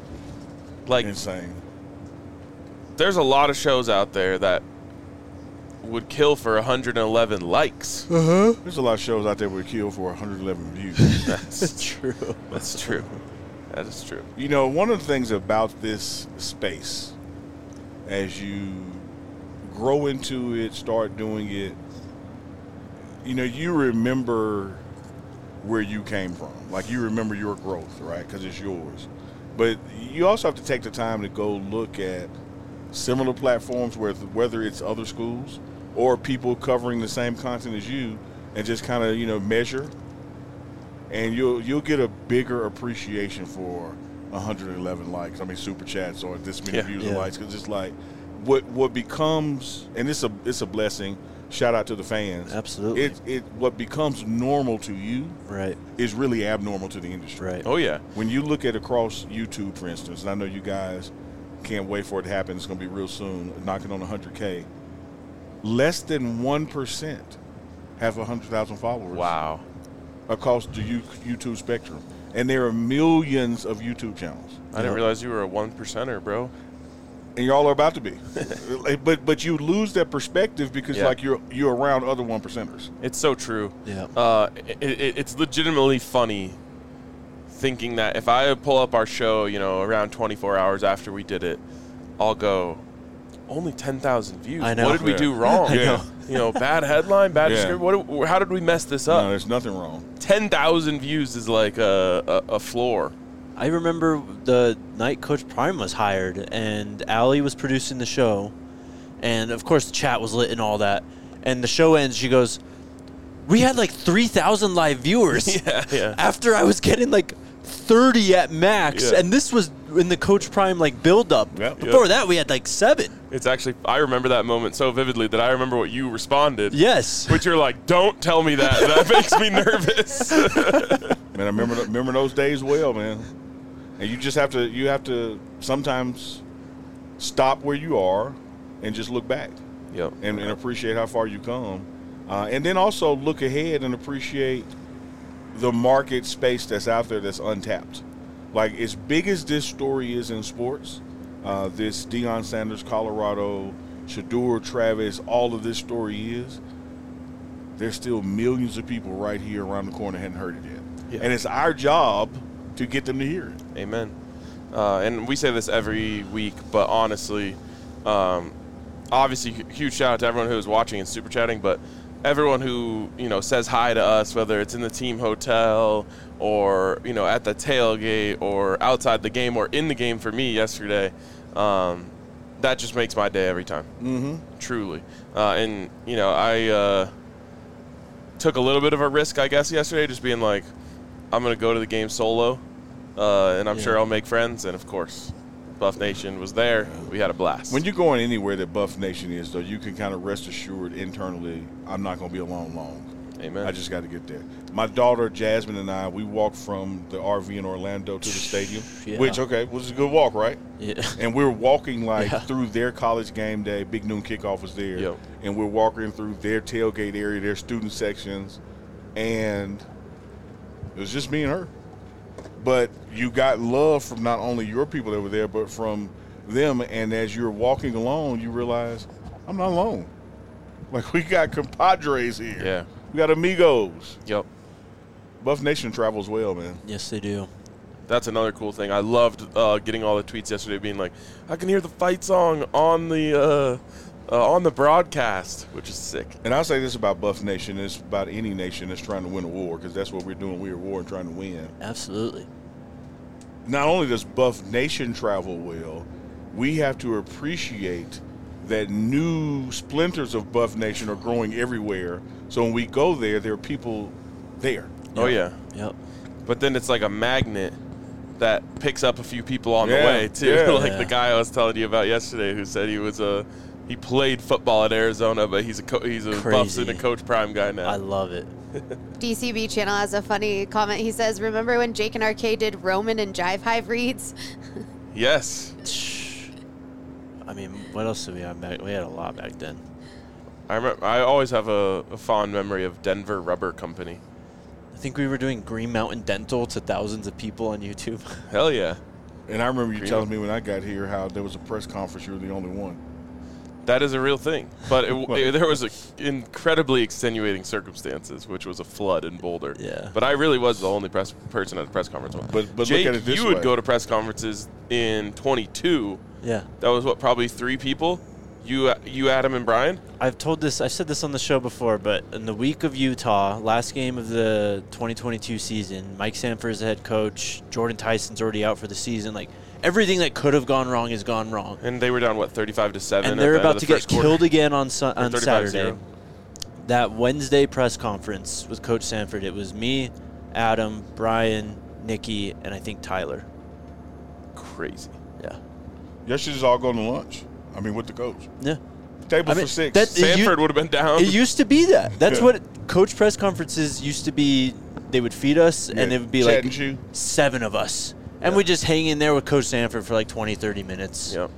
[SPEAKER 2] Like,
[SPEAKER 3] Insane.
[SPEAKER 2] there's a lot of shows out there that would kill for 111 likes.
[SPEAKER 3] There's a lot of shows out there would kill for 111 views.
[SPEAKER 2] That's true. That's true. That is true.
[SPEAKER 3] You know, one of the things about this space, as you grow into it, start doing it, you know, you remember where you came from. Like, you remember your growth, right? Because it's yours. But you also have to take the time to go look at similar platforms, whether it's other schools or people covering the same content as you, and just kind of, you know, measure. And you'll get a bigger appreciation for 111 likes. I mean, super chats or this many views and likes. Because it's like what becomes, and it's a blessing. Shout out to the fans.
[SPEAKER 1] Absolutely.
[SPEAKER 3] What becomes normal to you,
[SPEAKER 1] right,
[SPEAKER 3] is really abnormal to the industry.
[SPEAKER 1] Right.
[SPEAKER 2] Oh yeah.
[SPEAKER 3] When you look at across YouTube, for instance, and I know you guys can't wait for it to happen. It's going to be real soon, knocking on 100K. Less than 1% have 100,000 followers.
[SPEAKER 2] Wow.
[SPEAKER 3] Across the YouTube spectrum. And there are millions of YouTube channels.
[SPEAKER 2] I didn't realize you were a 1%er, bro.
[SPEAKER 3] And y'all are about to be. but you lose that perspective because like you're around other 1%ers.
[SPEAKER 2] It's so true.
[SPEAKER 1] Yeah.
[SPEAKER 2] It's legitimately funny thinking that if I pull up our show, you know, around 24 hours after we did it, I'll go, only 10,000 views.
[SPEAKER 1] I know.
[SPEAKER 2] What did we do wrong?
[SPEAKER 1] I know.
[SPEAKER 2] You know, bad headline, bad description. How did we mess this up?
[SPEAKER 3] No, there's nothing wrong.
[SPEAKER 2] 10,000 views is like a floor.
[SPEAKER 1] I remember the night Coach Prime was hired, and Allie was producing the show, and of course the chat was lit and all that. And the show ends, she goes, "We had like 3,000 live viewers."
[SPEAKER 2] Yeah.
[SPEAKER 1] After I was getting like 30 at max, and this was in the Coach Prime like build up.
[SPEAKER 3] Yep.
[SPEAKER 1] Before that, we had like 7.
[SPEAKER 2] It's actually, I remember that moment so vividly that I remember what you responded.
[SPEAKER 1] Yes.
[SPEAKER 2] Which you're like, don't tell me that. That makes me nervous.
[SPEAKER 3] Man, I remember those days well, man. And you have to sometimes stop where you are and just look back.
[SPEAKER 2] Yep.
[SPEAKER 3] And appreciate how far you come. And then also look ahead and appreciate the market space that's out there that's untapped. Like, as big as this story is in sports, this Deion Sanders, Colorado, Shedeur, Travis, all of this story is, there's still millions of people right here around the corner hadn't heard it yet. Yeah. And it's our job to get them to hear it.
[SPEAKER 2] Amen. And we say this every week, but honestly, obviously, huge shout out to everyone who is watching and super chatting, but everyone who, you know, says hi to us, whether it's in the team hotel or, you know, at the tailgate or outside the game or in the game for me yesterday, that just makes my day every time.
[SPEAKER 3] Mm-hmm.
[SPEAKER 2] Truly. And, you know, I took a little bit of a risk, I guess, yesterday, just being like, I'm going to go to the game solo, and I'm sure I'll make friends. And, of course, Buff Nation was there. We had a blast.
[SPEAKER 3] When you're going anywhere that Buff Nation is, though, you can kind of rest assured internally, I'm not going to be alone long.
[SPEAKER 2] Amen.
[SPEAKER 3] I just got to get there. My daughter, Jasmine, and I, we walked from the RV in Orlando to the stadium, which, was a good walk, right?
[SPEAKER 1] Yeah.
[SPEAKER 3] And we were walking, through their college game day. Big Noon Kickoff was there.
[SPEAKER 2] Yep.
[SPEAKER 3] And we're walking through their tailgate area, their student sections, and it was just me and her. But you got love from not only your people that were there, but from them. And as you're walking along, you realize, I'm not alone. Like, we got compadres here.
[SPEAKER 2] Yeah.
[SPEAKER 3] We got amigos.
[SPEAKER 2] Yep.
[SPEAKER 3] Buff Nation travels well, man.
[SPEAKER 1] Yes, they do.
[SPEAKER 2] That's another cool thing. I loved getting all the tweets yesterday being like, I can hear the fight song on the broadcast, which is sick.
[SPEAKER 3] And I'll say this about Buff Nation. It's about any nation that's trying to win a war, because that's what we're doing. We're at war and trying to win.
[SPEAKER 1] Absolutely.
[SPEAKER 3] Not only does Buff Nation travel well, we have to appreciate that new splinters of Buff Nation are growing everywhere. So when we go there, there are people there.
[SPEAKER 2] Oh, yeah.
[SPEAKER 1] Yep.
[SPEAKER 2] But then it's like a magnet that picks up a few people on the way, too.
[SPEAKER 3] Yeah.
[SPEAKER 2] Like the guy I was telling you about yesterday who said he played football at Arizona, but he's a Buffs and a Coach Prime guy now.
[SPEAKER 1] I love it.
[SPEAKER 4] DCB Channel has a funny comment. He says, remember when Jake and RK did Roman and Jive Hive reads?
[SPEAKER 2] Yes.
[SPEAKER 1] I mean, what else did we have back? We had a lot back then.
[SPEAKER 2] I always have a fond memory of Denver Rubber Company.
[SPEAKER 1] I think we were doing Green Mountain Dental to thousands of people on YouTube.
[SPEAKER 2] Hell yeah.
[SPEAKER 3] And I remember you telling me when I got here how there was a press conference, you were the only one.
[SPEAKER 2] That is a real thing. But there was incredibly extenuating circumstances, which was a flood in Boulder.
[SPEAKER 1] Yeah.
[SPEAKER 2] But I really was the only person at a press conference.
[SPEAKER 3] But
[SPEAKER 2] Jake,
[SPEAKER 3] look at it this
[SPEAKER 2] you
[SPEAKER 3] way.
[SPEAKER 2] would go to press conferences in 22.
[SPEAKER 1] Yeah.
[SPEAKER 2] That was probably 3 people? You, Adam, and Brian?
[SPEAKER 1] I've said this on the show before, but in the week of Utah, last game of the 2022 season, Mike Sanford is the head coach. Jordan Tyson's already out for the season. Like, everything that could have gone wrong has gone wrong.
[SPEAKER 2] And they were down, 35-7?
[SPEAKER 1] And they're about to get killed again on
[SPEAKER 2] 35-0.
[SPEAKER 1] Saturday. That Wednesday press conference with Coach Sanford, it was me, Adam, Brian, Nikki, and I think Tyler.
[SPEAKER 2] Crazy.
[SPEAKER 1] Yeah.
[SPEAKER 3] Y'all should just all go to lunch. I mean, with the coach.
[SPEAKER 1] Yeah.
[SPEAKER 3] Table for 6.
[SPEAKER 2] Sanford would have been down.
[SPEAKER 1] It used to be that. That's
[SPEAKER 3] Yeah.
[SPEAKER 1] what coach press conferences used to be. They would feed us, and it would be like
[SPEAKER 3] Chat and chew.
[SPEAKER 1] 7 of us. And we'd just hang in there with Coach Sanford for like 20, 30 minutes.
[SPEAKER 2] Yep.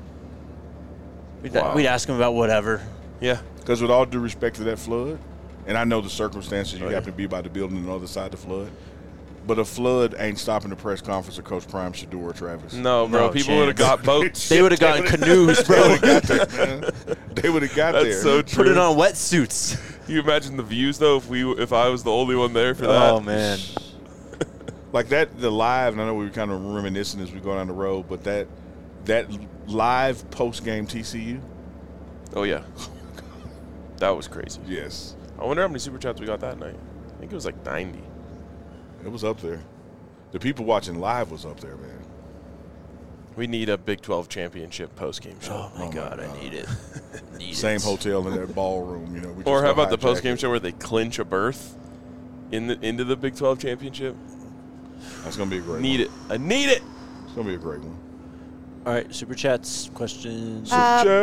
[SPEAKER 1] We'd ask him about whatever.
[SPEAKER 2] Yeah.
[SPEAKER 3] Because with all due respect to that flood, and I know the circumstances, you happen to be by the building on the other side of the flood, but a flood ain't stopping the press conference of Coach Prime, Shador, or Travis.
[SPEAKER 2] No, bro.
[SPEAKER 1] No
[SPEAKER 2] People would have got boats.
[SPEAKER 1] They would have gotten canoes, bro.
[SPEAKER 3] They would have got
[SPEAKER 2] That's
[SPEAKER 3] there.
[SPEAKER 2] so true.
[SPEAKER 1] Put it on wetsuits.
[SPEAKER 2] Can you imagine the views, though, if I was the only one there for that?
[SPEAKER 1] Oh, man.
[SPEAKER 3] Like the live, and I know we were kind of reminiscing as we go down the road, but that live post-game TCU,
[SPEAKER 2] Oh, yeah. That was crazy.
[SPEAKER 3] yes,
[SPEAKER 2] I wonder how many Super Chats we got that night. I think it was like 90.
[SPEAKER 3] it was up there. The people watching live was up there, man.
[SPEAKER 2] We need a Big 12 championship post-game show.
[SPEAKER 1] Oh, my God. I need it.
[SPEAKER 3] Same hotel in that ballroom, you know. We
[SPEAKER 2] Or
[SPEAKER 3] just
[SPEAKER 2] how
[SPEAKER 3] go
[SPEAKER 2] about the
[SPEAKER 3] hijack
[SPEAKER 2] post-game
[SPEAKER 3] it.
[SPEAKER 2] show where they clinch a berth into the Big 12 championship?
[SPEAKER 3] That's gonna be a great.
[SPEAKER 2] Need
[SPEAKER 3] one.
[SPEAKER 2] it. I need it.
[SPEAKER 3] It's gonna be a great one.
[SPEAKER 1] All right, Super Chats, questions.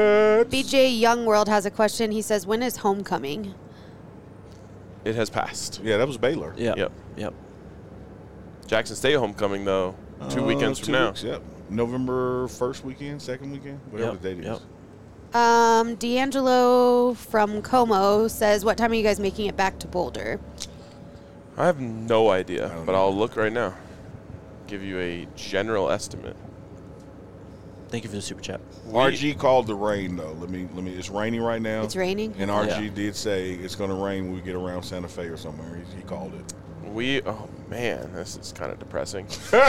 [SPEAKER 4] BJ Youngworld has a question. He says, when is homecoming?
[SPEAKER 2] It has passed.
[SPEAKER 3] Yeah, that was Baylor.
[SPEAKER 1] Yep.
[SPEAKER 2] Jackson State homecoming, though, 2 weekends from now.
[SPEAKER 3] Weeks, yep. November 1st weekend, 2nd weekend, whatever
[SPEAKER 1] Yep,
[SPEAKER 3] the date is.
[SPEAKER 1] yep.
[SPEAKER 4] D'Angelo from Como says, what time are you guys making it back to Boulder?
[SPEAKER 2] I have no idea,
[SPEAKER 3] don't
[SPEAKER 2] but
[SPEAKER 3] know.
[SPEAKER 2] I'll look right now. Give you a general estimate.
[SPEAKER 1] Thank you for the Super Chat.
[SPEAKER 3] RG called the rain though. Let me. It's raining right now.
[SPEAKER 4] It's raining?
[SPEAKER 3] And RG
[SPEAKER 1] Yeah.
[SPEAKER 3] did say it's going to rain when we get around Santa Fe or somewhere. He called it.
[SPEAKER 2] Oh man, this is kind of depressing.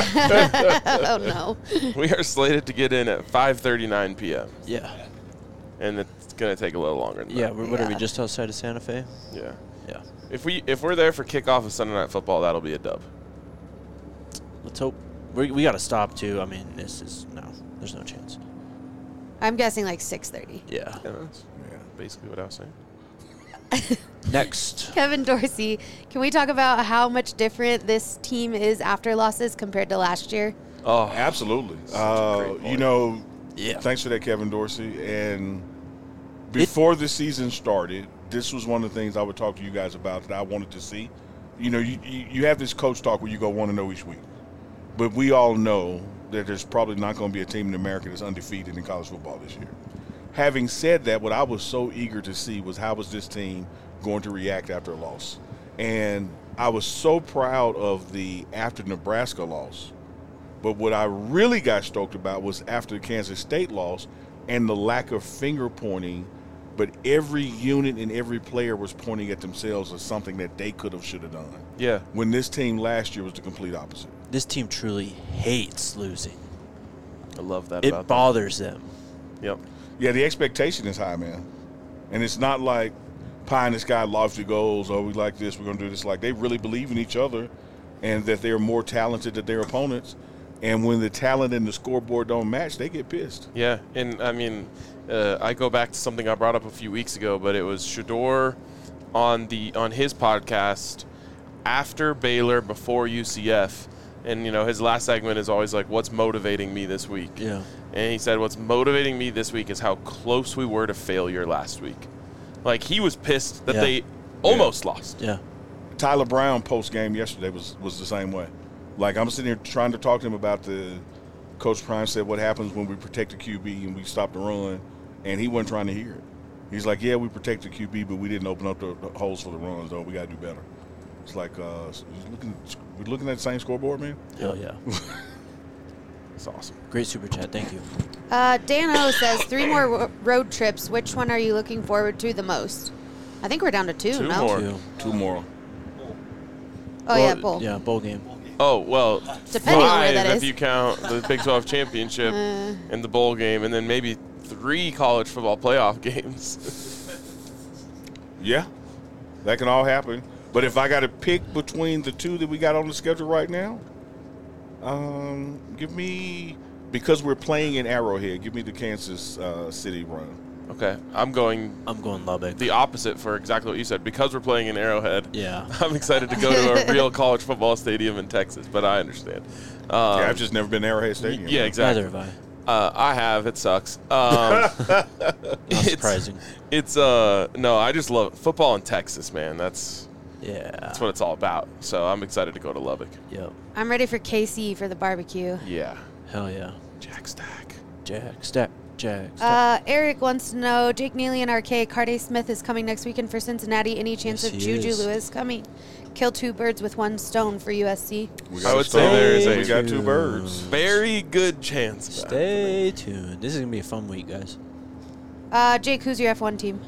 [SPEAKER 4] Oh, no.
[SPEAKER 2] We are slated to get in at 5:39 p.m.
[SPEAKER 1] Yeah.
[SPEAKER 2] and it's gonna take a little longer than
[SPEAKER 1] Yeah,
[SPEAKER 2] that.
[SPEAKER 1] what are we,
[SPEAKER 4] Yeah.
[SPEAKER 1] just outside of Santa Fe?
[SPEAKER 2] Yeah.
[SPEAKER 1] Yeah.
[SPEAKER 2] If we're there for kickoff of Sunday Night Football, that'll be a dub.
[SPEAKER 1] Let's hope. We got to stop, too. I mean, there's no chance.
[SPEAKER 4] I'm guessing like 6:30.
[SPEAKER 1] Yeah.
[SPEAKER 2] Yeah, that's basically what I was saying.
[SPEAKER 1] Next.
[SPEAKER 4] Kevin Dorsey, can we talk about how much different this team is after losses compared to last year?
[SPEAKER 2] Oh,
[SPEAKER 3] Absolutely.
[SPEAKER 2] great point.
[SPEAKER 3] You know,
[SPEAKER 1] Yeah.
[SPEAKER 3] thanks for that, Kevin Dorsey. And before the season started, this was one of the things I would talk to you guys about that I wanted to see. You know, you have this coach talk where you go 1-0 each week. But we all know that there's probably not going to be a team in America that's undefeated in college football this year. Having said that, what I was so eager to see was how was this team going to react after a loss. And I was so proud of the after Nebraska loss. But what I really got stoked about was after the Kansas State loss and the lack of finger pointing, but every unit and every player was pointing at themselves as something that they could have, should have done.
[SPEAKER 2] yeah.
[SPEAKER 3] When this team last year was the complete opposite.
[SPEAKER 1] This team truly hates losing.
[SPEAKER 2] I love that
[SPEAKER 1] It
[SPEAKER 2] about
[SPEAKER 1] bothers them.
[SPEAKER 2] them. Yep.
[SPEAKER 3] Yeah, the expectation is high, man. And it's not like pie in the sky lofty goals, oh, we like this, we're going to do this. Like, they really believe in each other and that they're more talented than their opponents. And when the talent and the scoreboard don't match, they get pissed.
[SPEAKER 2] Yeah, and I mean, I go back to something I brought up a few weeks ago, but it was Shador on his podcast after Baylor, before UCF, and you know his last segment is always like, "What's motivating me this week?"
[SPEAKER 1] Yeah.
[SPEAKER 2] And he said, "What's motivating me this week is how close we were to failure last week." Like he was pissed that
[SPEAKER 1] Yeah.
[SPEAKER 2] they almost lost.
[SPEAKER 1] Yeah.
[SPEAKER 3] Tyler Brown post-game yesterday was the same way. Like, I'm sitting here trying to talk to him about Coach Prime said what happens when we protect the QB and we stop the run, and he wasn't trying to hear it. He's like, yeah, we protect the QB, but we didn't open up the holes for the runs, though. We got to do better. It's like, we're looking at the same scoreboard, man.
[SPEAKER 1] Hell yeah.
[SPEAKER 2] It's awesome.
[SPEAKER 1] Great super chat. Thank you.
[SPEAKER 4] Dan O says 3 more road trips. Which one are you looking forward to the most? I think we're down to 2.
[SPEAKER 2] Two
[SPEAKER 4] no?
[SPEAKER 2] more.
[SPEAKER 3] 2 more.
[SPEAKER 4] Oh, yeah, bowl.
[SPEAKER 1] Yeah, bowl game.
[SPEAKER 2] Oh, well,
[SPEAKER 4] Depending on where
[SPEAKER 2] 5
[SPEAKER 4] that
[SPEAKER 2] if
[SPEAKER 4] is.
[SPEAKER 2] you count the Big 12 championship and the bowl game, and then maybe 3 college football playoff games.
[SPEAKER 3] Yeah, that can all happen. But if I got to pick between the 2 that we got on the schedule right now, give me, because we're playing in Arrowhead, give me the Kansas City run.
[SPEAKER 2] Okay, I'm going
[SPEAKER 1] Lubbock.
[SPEAKER 2] the opposite for exactly what you said. Because we're playing in Arrowhead,
[SPEAKER 1] Yeah.
[SPEAKER 2] I'm excited to go to a real college football stadium in Texas, but I understand.
[SPEAKER 3] Yeah, I've just never been to Arrowhead Stadium.
[SPEAKER 2] Yeah, exactly.
[SPEAKER 1] Neither have I.
[SPEAKER 2] I have. It sucks.
[SPEAKER 1] Not surprising.
[SPEAKER 2] It's no, I just love football in Texas, man. That's
[SPEAKER 1] Yeah.
[SPEAKER 2] what it's all about. So I'm excited to go to Lubbock.
[SPEAKER 1] Yep.
[SPEAKER 4] I'm ready for KC for the barbecue.
[SPEAKER 2] Yeah.
[SPEAKER 1] Hell yeah.
[SPEAKER 2] Jack Stack.
[SPEAKER 1] Jack, stack, Jack, stack.
[SPEAKER 4] Eric wants to know, Jake Neely and RK, Carday Smith is coming next weekend for Cincinnati. Any chance
[SPEAKER 1] Yes,
[SPEAKER 4] of
[SPEAKER 1] he
[SPEAKER 4] Juju
[SPEAKER 1] is.
[SPEAKER 4] Lewis coming? Kill 2 birds with 1 stone for USC.
[SPEAKER 3] We
[SPEAKER 2] I
[SPEAKER 3] got
[SPEAKER 2] would
[SPEAKER 3] a
[SPEAKER 2] say
[SPEAKER 3] stone.
[SPEAKER 2] there is a
[SPEAKER 3] We got 2 birds.
[SPEAKER 2] very good chance. of that.
[SPEAKER 1] Stay tuned. This is gonna be a fun week, guys.
[SPEAKER 4] Jake, who's your F1 team?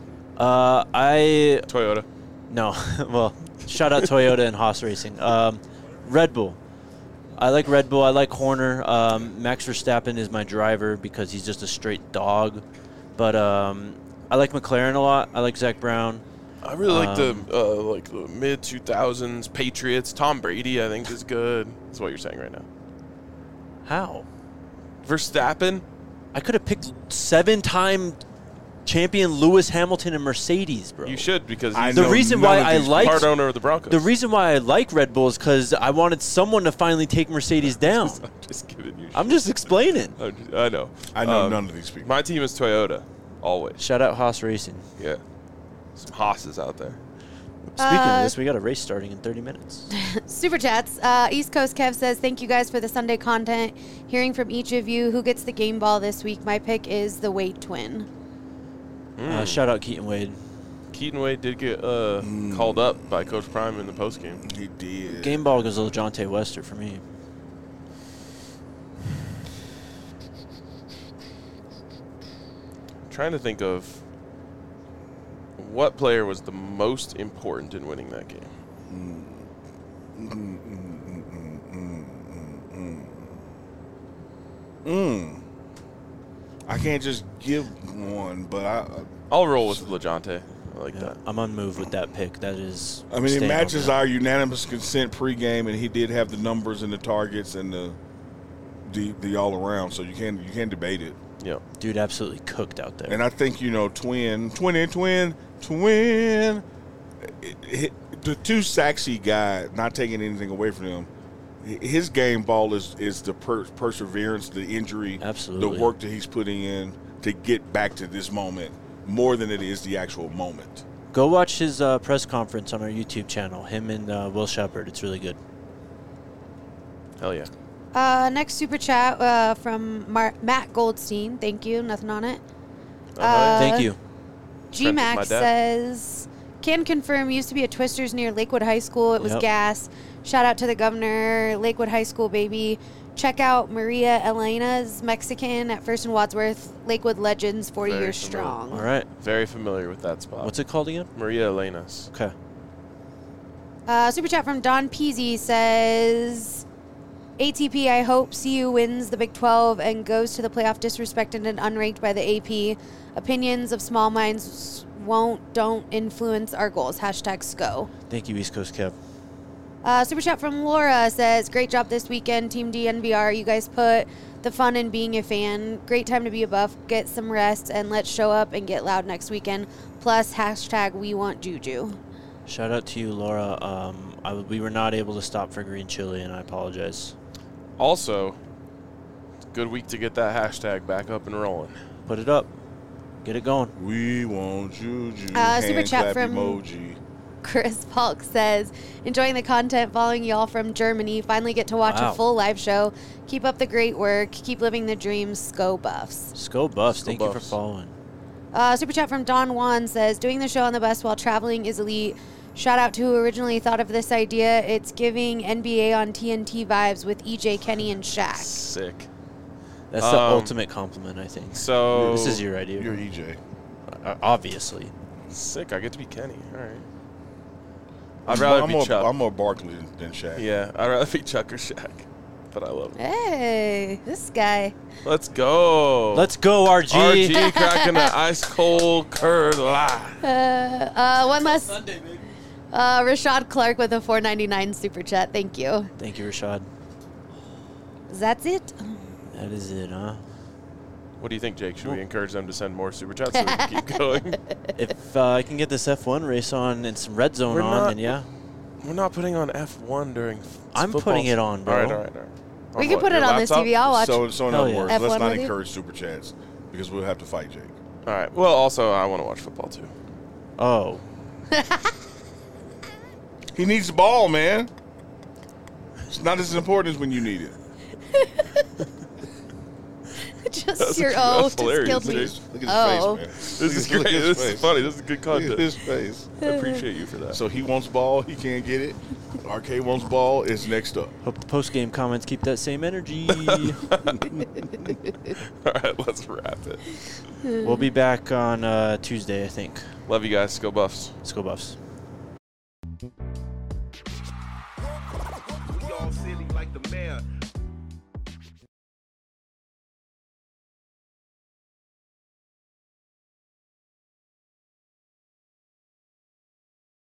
[SPEAKER 1] I
[SPEAKER 2] Toyota.
[SPEAKER 1] no. Well, shout out Toyota and Haas Racing. Red Bull. I like Red Bull. I like Horner. Max Verstappen is my driver because he's just a straight dog. But I like McLaren a lot. I like Zach Brown.
[SPEAKER 2] I really like the mid 2000s Patriots. Tom Brady, I think, is good. That's what you're saying right now.
[SPEAKER 1] How?
[SPEAKER 2] Verstappen.
[SPEAKER 1] I could have picked 7-time champion Lewis Hamilton and Mercedes, bro.
[SPEAKER 2] You should because
[SPEAKER 3] I
[SPEAKER 2] he's
[SPEAKER 1] The
[SPEAKER 3] know
[SPEAKER 1] reason
[SPEAKER 3] none
[SPEAKER 1] why
[SPEAKER 3] of
[SPEAKER 1] I
[SPEAKER 3] these
[SPEAKER 1] like
[SPEAKER 2] part owner of the Broncos.
[SPEAKER 1] the reason why I like Red Bull is because I wanted someone to finally take Mercedes down.
[SPEAKER 2] I'm just giving you.
[SPEAKER 1] I'm just explaining.
[SPEAKER 2] I know.
[SPEAKER 3] I know none of these people.
[SPEAKER 2] My team is Toyota, always.
[SPEAKER 1] Shout out Haas Racing.
[SPEAKER 2] Yeah, some Haas's out there.
[SPEAKER 1] Speaking of this, we got a race starting in 30 minutes.
[SPEAKER 4] Super chats. East Coast Kev says, thank you guys for the Sunday content. Hearing from each of you, who gets the game ball this week? My pick is the Wade twin.
[SPEAKER 1] Shout out Keaton Wade.
[SPEAKER 2] Keaton Wade did get called up by Coach Prime in the postgame.
[SPEAKER 3] He did.
[SPEAKER 1] Game ball goes to LeJonte Wester for me.
[SPEAKER 2] Trying to think of what player was the most important in winning that game.
[SPEAKER 3] I can't just give one, but
[SPEAKER 2] I'll roll with LeJonte. I like
[SPEAKER 1] Yeah,
[SPEAKER 2] that.
[SPEAKER 1] I'm unmoved with that pick. That is.
[SPEAKER 3] I mean, it
[SPEAKER 1] staying
[SPEAKER 3] matches
[SPEAKER 1] on that.
[SPEAKER 3] our unanimous consent pregame, and he did have the numbers and the targets and the all around, so you can't debate it.
[SPEAKER 2] Yeah.
[SPEAKER 1] Dude absolutely cooked out there.
[SPEAKER 3] And I think twin. The 2 sacks he got, not taking anything away from him. His game ball is the perseverance, the injury,
[SPEAKER 1] Absolutely.
[SPEAKER 3] the work that he's putting in to get back to this moment more than it is the actual moment.
[SPEAKER 1] Go watch his press conference on our YouTube channel. Him and Will Shepard. It's really good.
[SPEAKER 2] Hell yeah.
[SPEAKER 4] Next super chat from Matt Goldstein. Thank you. Nothing on it.
[SPEAKER 1] Thank you.
[SPEAKER 2] Friends with my
[SPEAKER 4] GMAX
[SPEAKER 2] dad.
[SPEAKER 4] says, can confirm used to be a Twisters near Lakewood High School. It was
[SPEAKER 1] Yep.
[SPEAKER 4] gas. Shout out to the governor, Lakewood High School, baby. Check out Maria Elena's Mexican at First and Wadsworth. Lakewood Legends, 40
[SPEAKER 2] Very
[SPEAKER 4] years
[SPEAKER 2] familiar.
[SPEAKER 4] strong.
[SPEAKER 1] All right.
[SPEAKER 2] Very familiar with that spot.
[SPEAKER 1] What's it called again?
[SPEAKER 2] Maria Elena's.
[SPEAKER 1] Okay.
[SPEAKER 4] Super chat from Don Peasy says, ATP, I hope CU wins the Big 12 and goes to the playoff disrespected and unranked by the AP. Opinions of small minds don't influence our goals. Hashtag SCO.
[SPEAKER 1] Thank you, East Coast Kev.
[SPEAKER 4] Super chat from Laura says, great job this weekend, Team DNVR. You guys put the fun in being a fan. Great time to be a buff. Get some rest, and let's show up and get loud next weekend. Plus, hashtag we want Juju.
[SPEAKER 1] Shout out to you, Laura. We were not able to stop for green chili, and I apologize.
[SPEAKER 2] Also, it's a good week to get that hashtag back up and rolling.
[SPEAKER 1] Put it up. Get it going.
[SPEAKER 3] We want Juju.
[SPEAKER 4] Super
[SPEAKER 3] Hand
[SPEAKER 4] chat
[SPEAKER 3] clap
[SPEAKER 4] from-
[SPEAKER 3] emoji.
[SPEAKER 4] Chris Palk says, enjoying the content, following y'all from Germany. Finally get to watch
[SPEAKER 1] Wow.
[SPEAKER 4] a full live show. Keep up the great work. Keep living the dreams. SCO Buffs.
[SPEAKER 1] Sco Buffs.
[SPEAKER 2] Sco
[SPEAKER 1] Thank you
[SPEAKER 2] Buffs.
[SPEAKER 1] for following.
[SPEAKER 4] Super chat from Don Juan says, doing the show on the bus while traveling is elite. Shout out to who originally thought of this idea. It's giving NBA on TNT vibes with EJ, Kenny, and Shaq.
[SPEAKER 2] Sick.
[SPEAKER 1] That's the ultimate compliment, I think.
[SPEAKER 2] So
[SPEAKER 1] This is your idea.
[SPEAKER 3] You're EJ.
[SPEAKER 1] Obviously.
[SPEAKER 2] sick. I get to be Kenny. All right. I'd rather be Chuck.
[SPEAKER 3] I'm more Barkley than Shaq.
[SPEAKER 2] Yeah, I'd rather be Chuck or Shaq. But I love him.
[SPEAKER 4] Hey, this guy.
[SPEAKER 2] Let's go.
[SPEAKER 1] Let's go, RG.
[SPEAKER 2] RG cracking the ice cold curd live.
[SPEAKER 4] One last. Rashad Clark with a $4.99 super chat. Thank you.
[SPEAKER 1] Thank you, Rashad.
[SPEAKER 4] That's it.
[SPEAKER 1] That is it, huh?
[SPEAKER 2] What do you think, Jake? Should we encourage them to send more super chats so we can keep going?
[SPEAKER 1] If I can get this F1 race on and some red zone then yeah.
[SPEAKER 2] We're not putting on F1 during
[SPEAKER 1] I'm
[SPEAKER 2] football
[SPEAKER 1] putting it on, bro.
[SPEAKER 2] All right.
[SPEAKER 4] We can put it on this TV. I'll watch.
[SPEAKER 3] So in
[SPEAKER 1] Hell
[SPEAKER 3] other
[SPEAKER 1] yeah.
[SPEAKER 3] words,
[SPEAKER 4] F1
[SPEAKER 3] let's not
[SPEAKER 4] with you?
[SPEAKER 3] encourage super chats because we'll have to fight Jake.
[SPEAKER 2] All right. Well, also, I want to watch football, too.
[SPEAKER 1] Oh.
[SPEAKER 3] He needs the ball, man. It's not as important as when you need it.
[SPEAKER 4] Just your just killed me.
[SPEAKER 3] Look at his
[SPEAKER 4] Oh.
[SPEAKER 3] face, man.
[SPEAKER 2] This is great. This is funny. This is good
[SPEAKER 3] Look
[SPEAKER 2] content.
[SPEAKER 3] at his face.
[SPEAKER 2] I appreciate you for that.
[SPEAKER 3] So he wants ball. He can't get it. RK wants ball. It's next up.
[SPEAKER 1] Hope the post-game comments keep that same energy.
[SPEAKER 2] All right, let's wrap it.
[SPEAKER 1] We'll be back on Tuesday, I think.
[SPEAKER 2] Love you guys. Go Buffs.
[SPEAKER 1] Let's go, Buffs.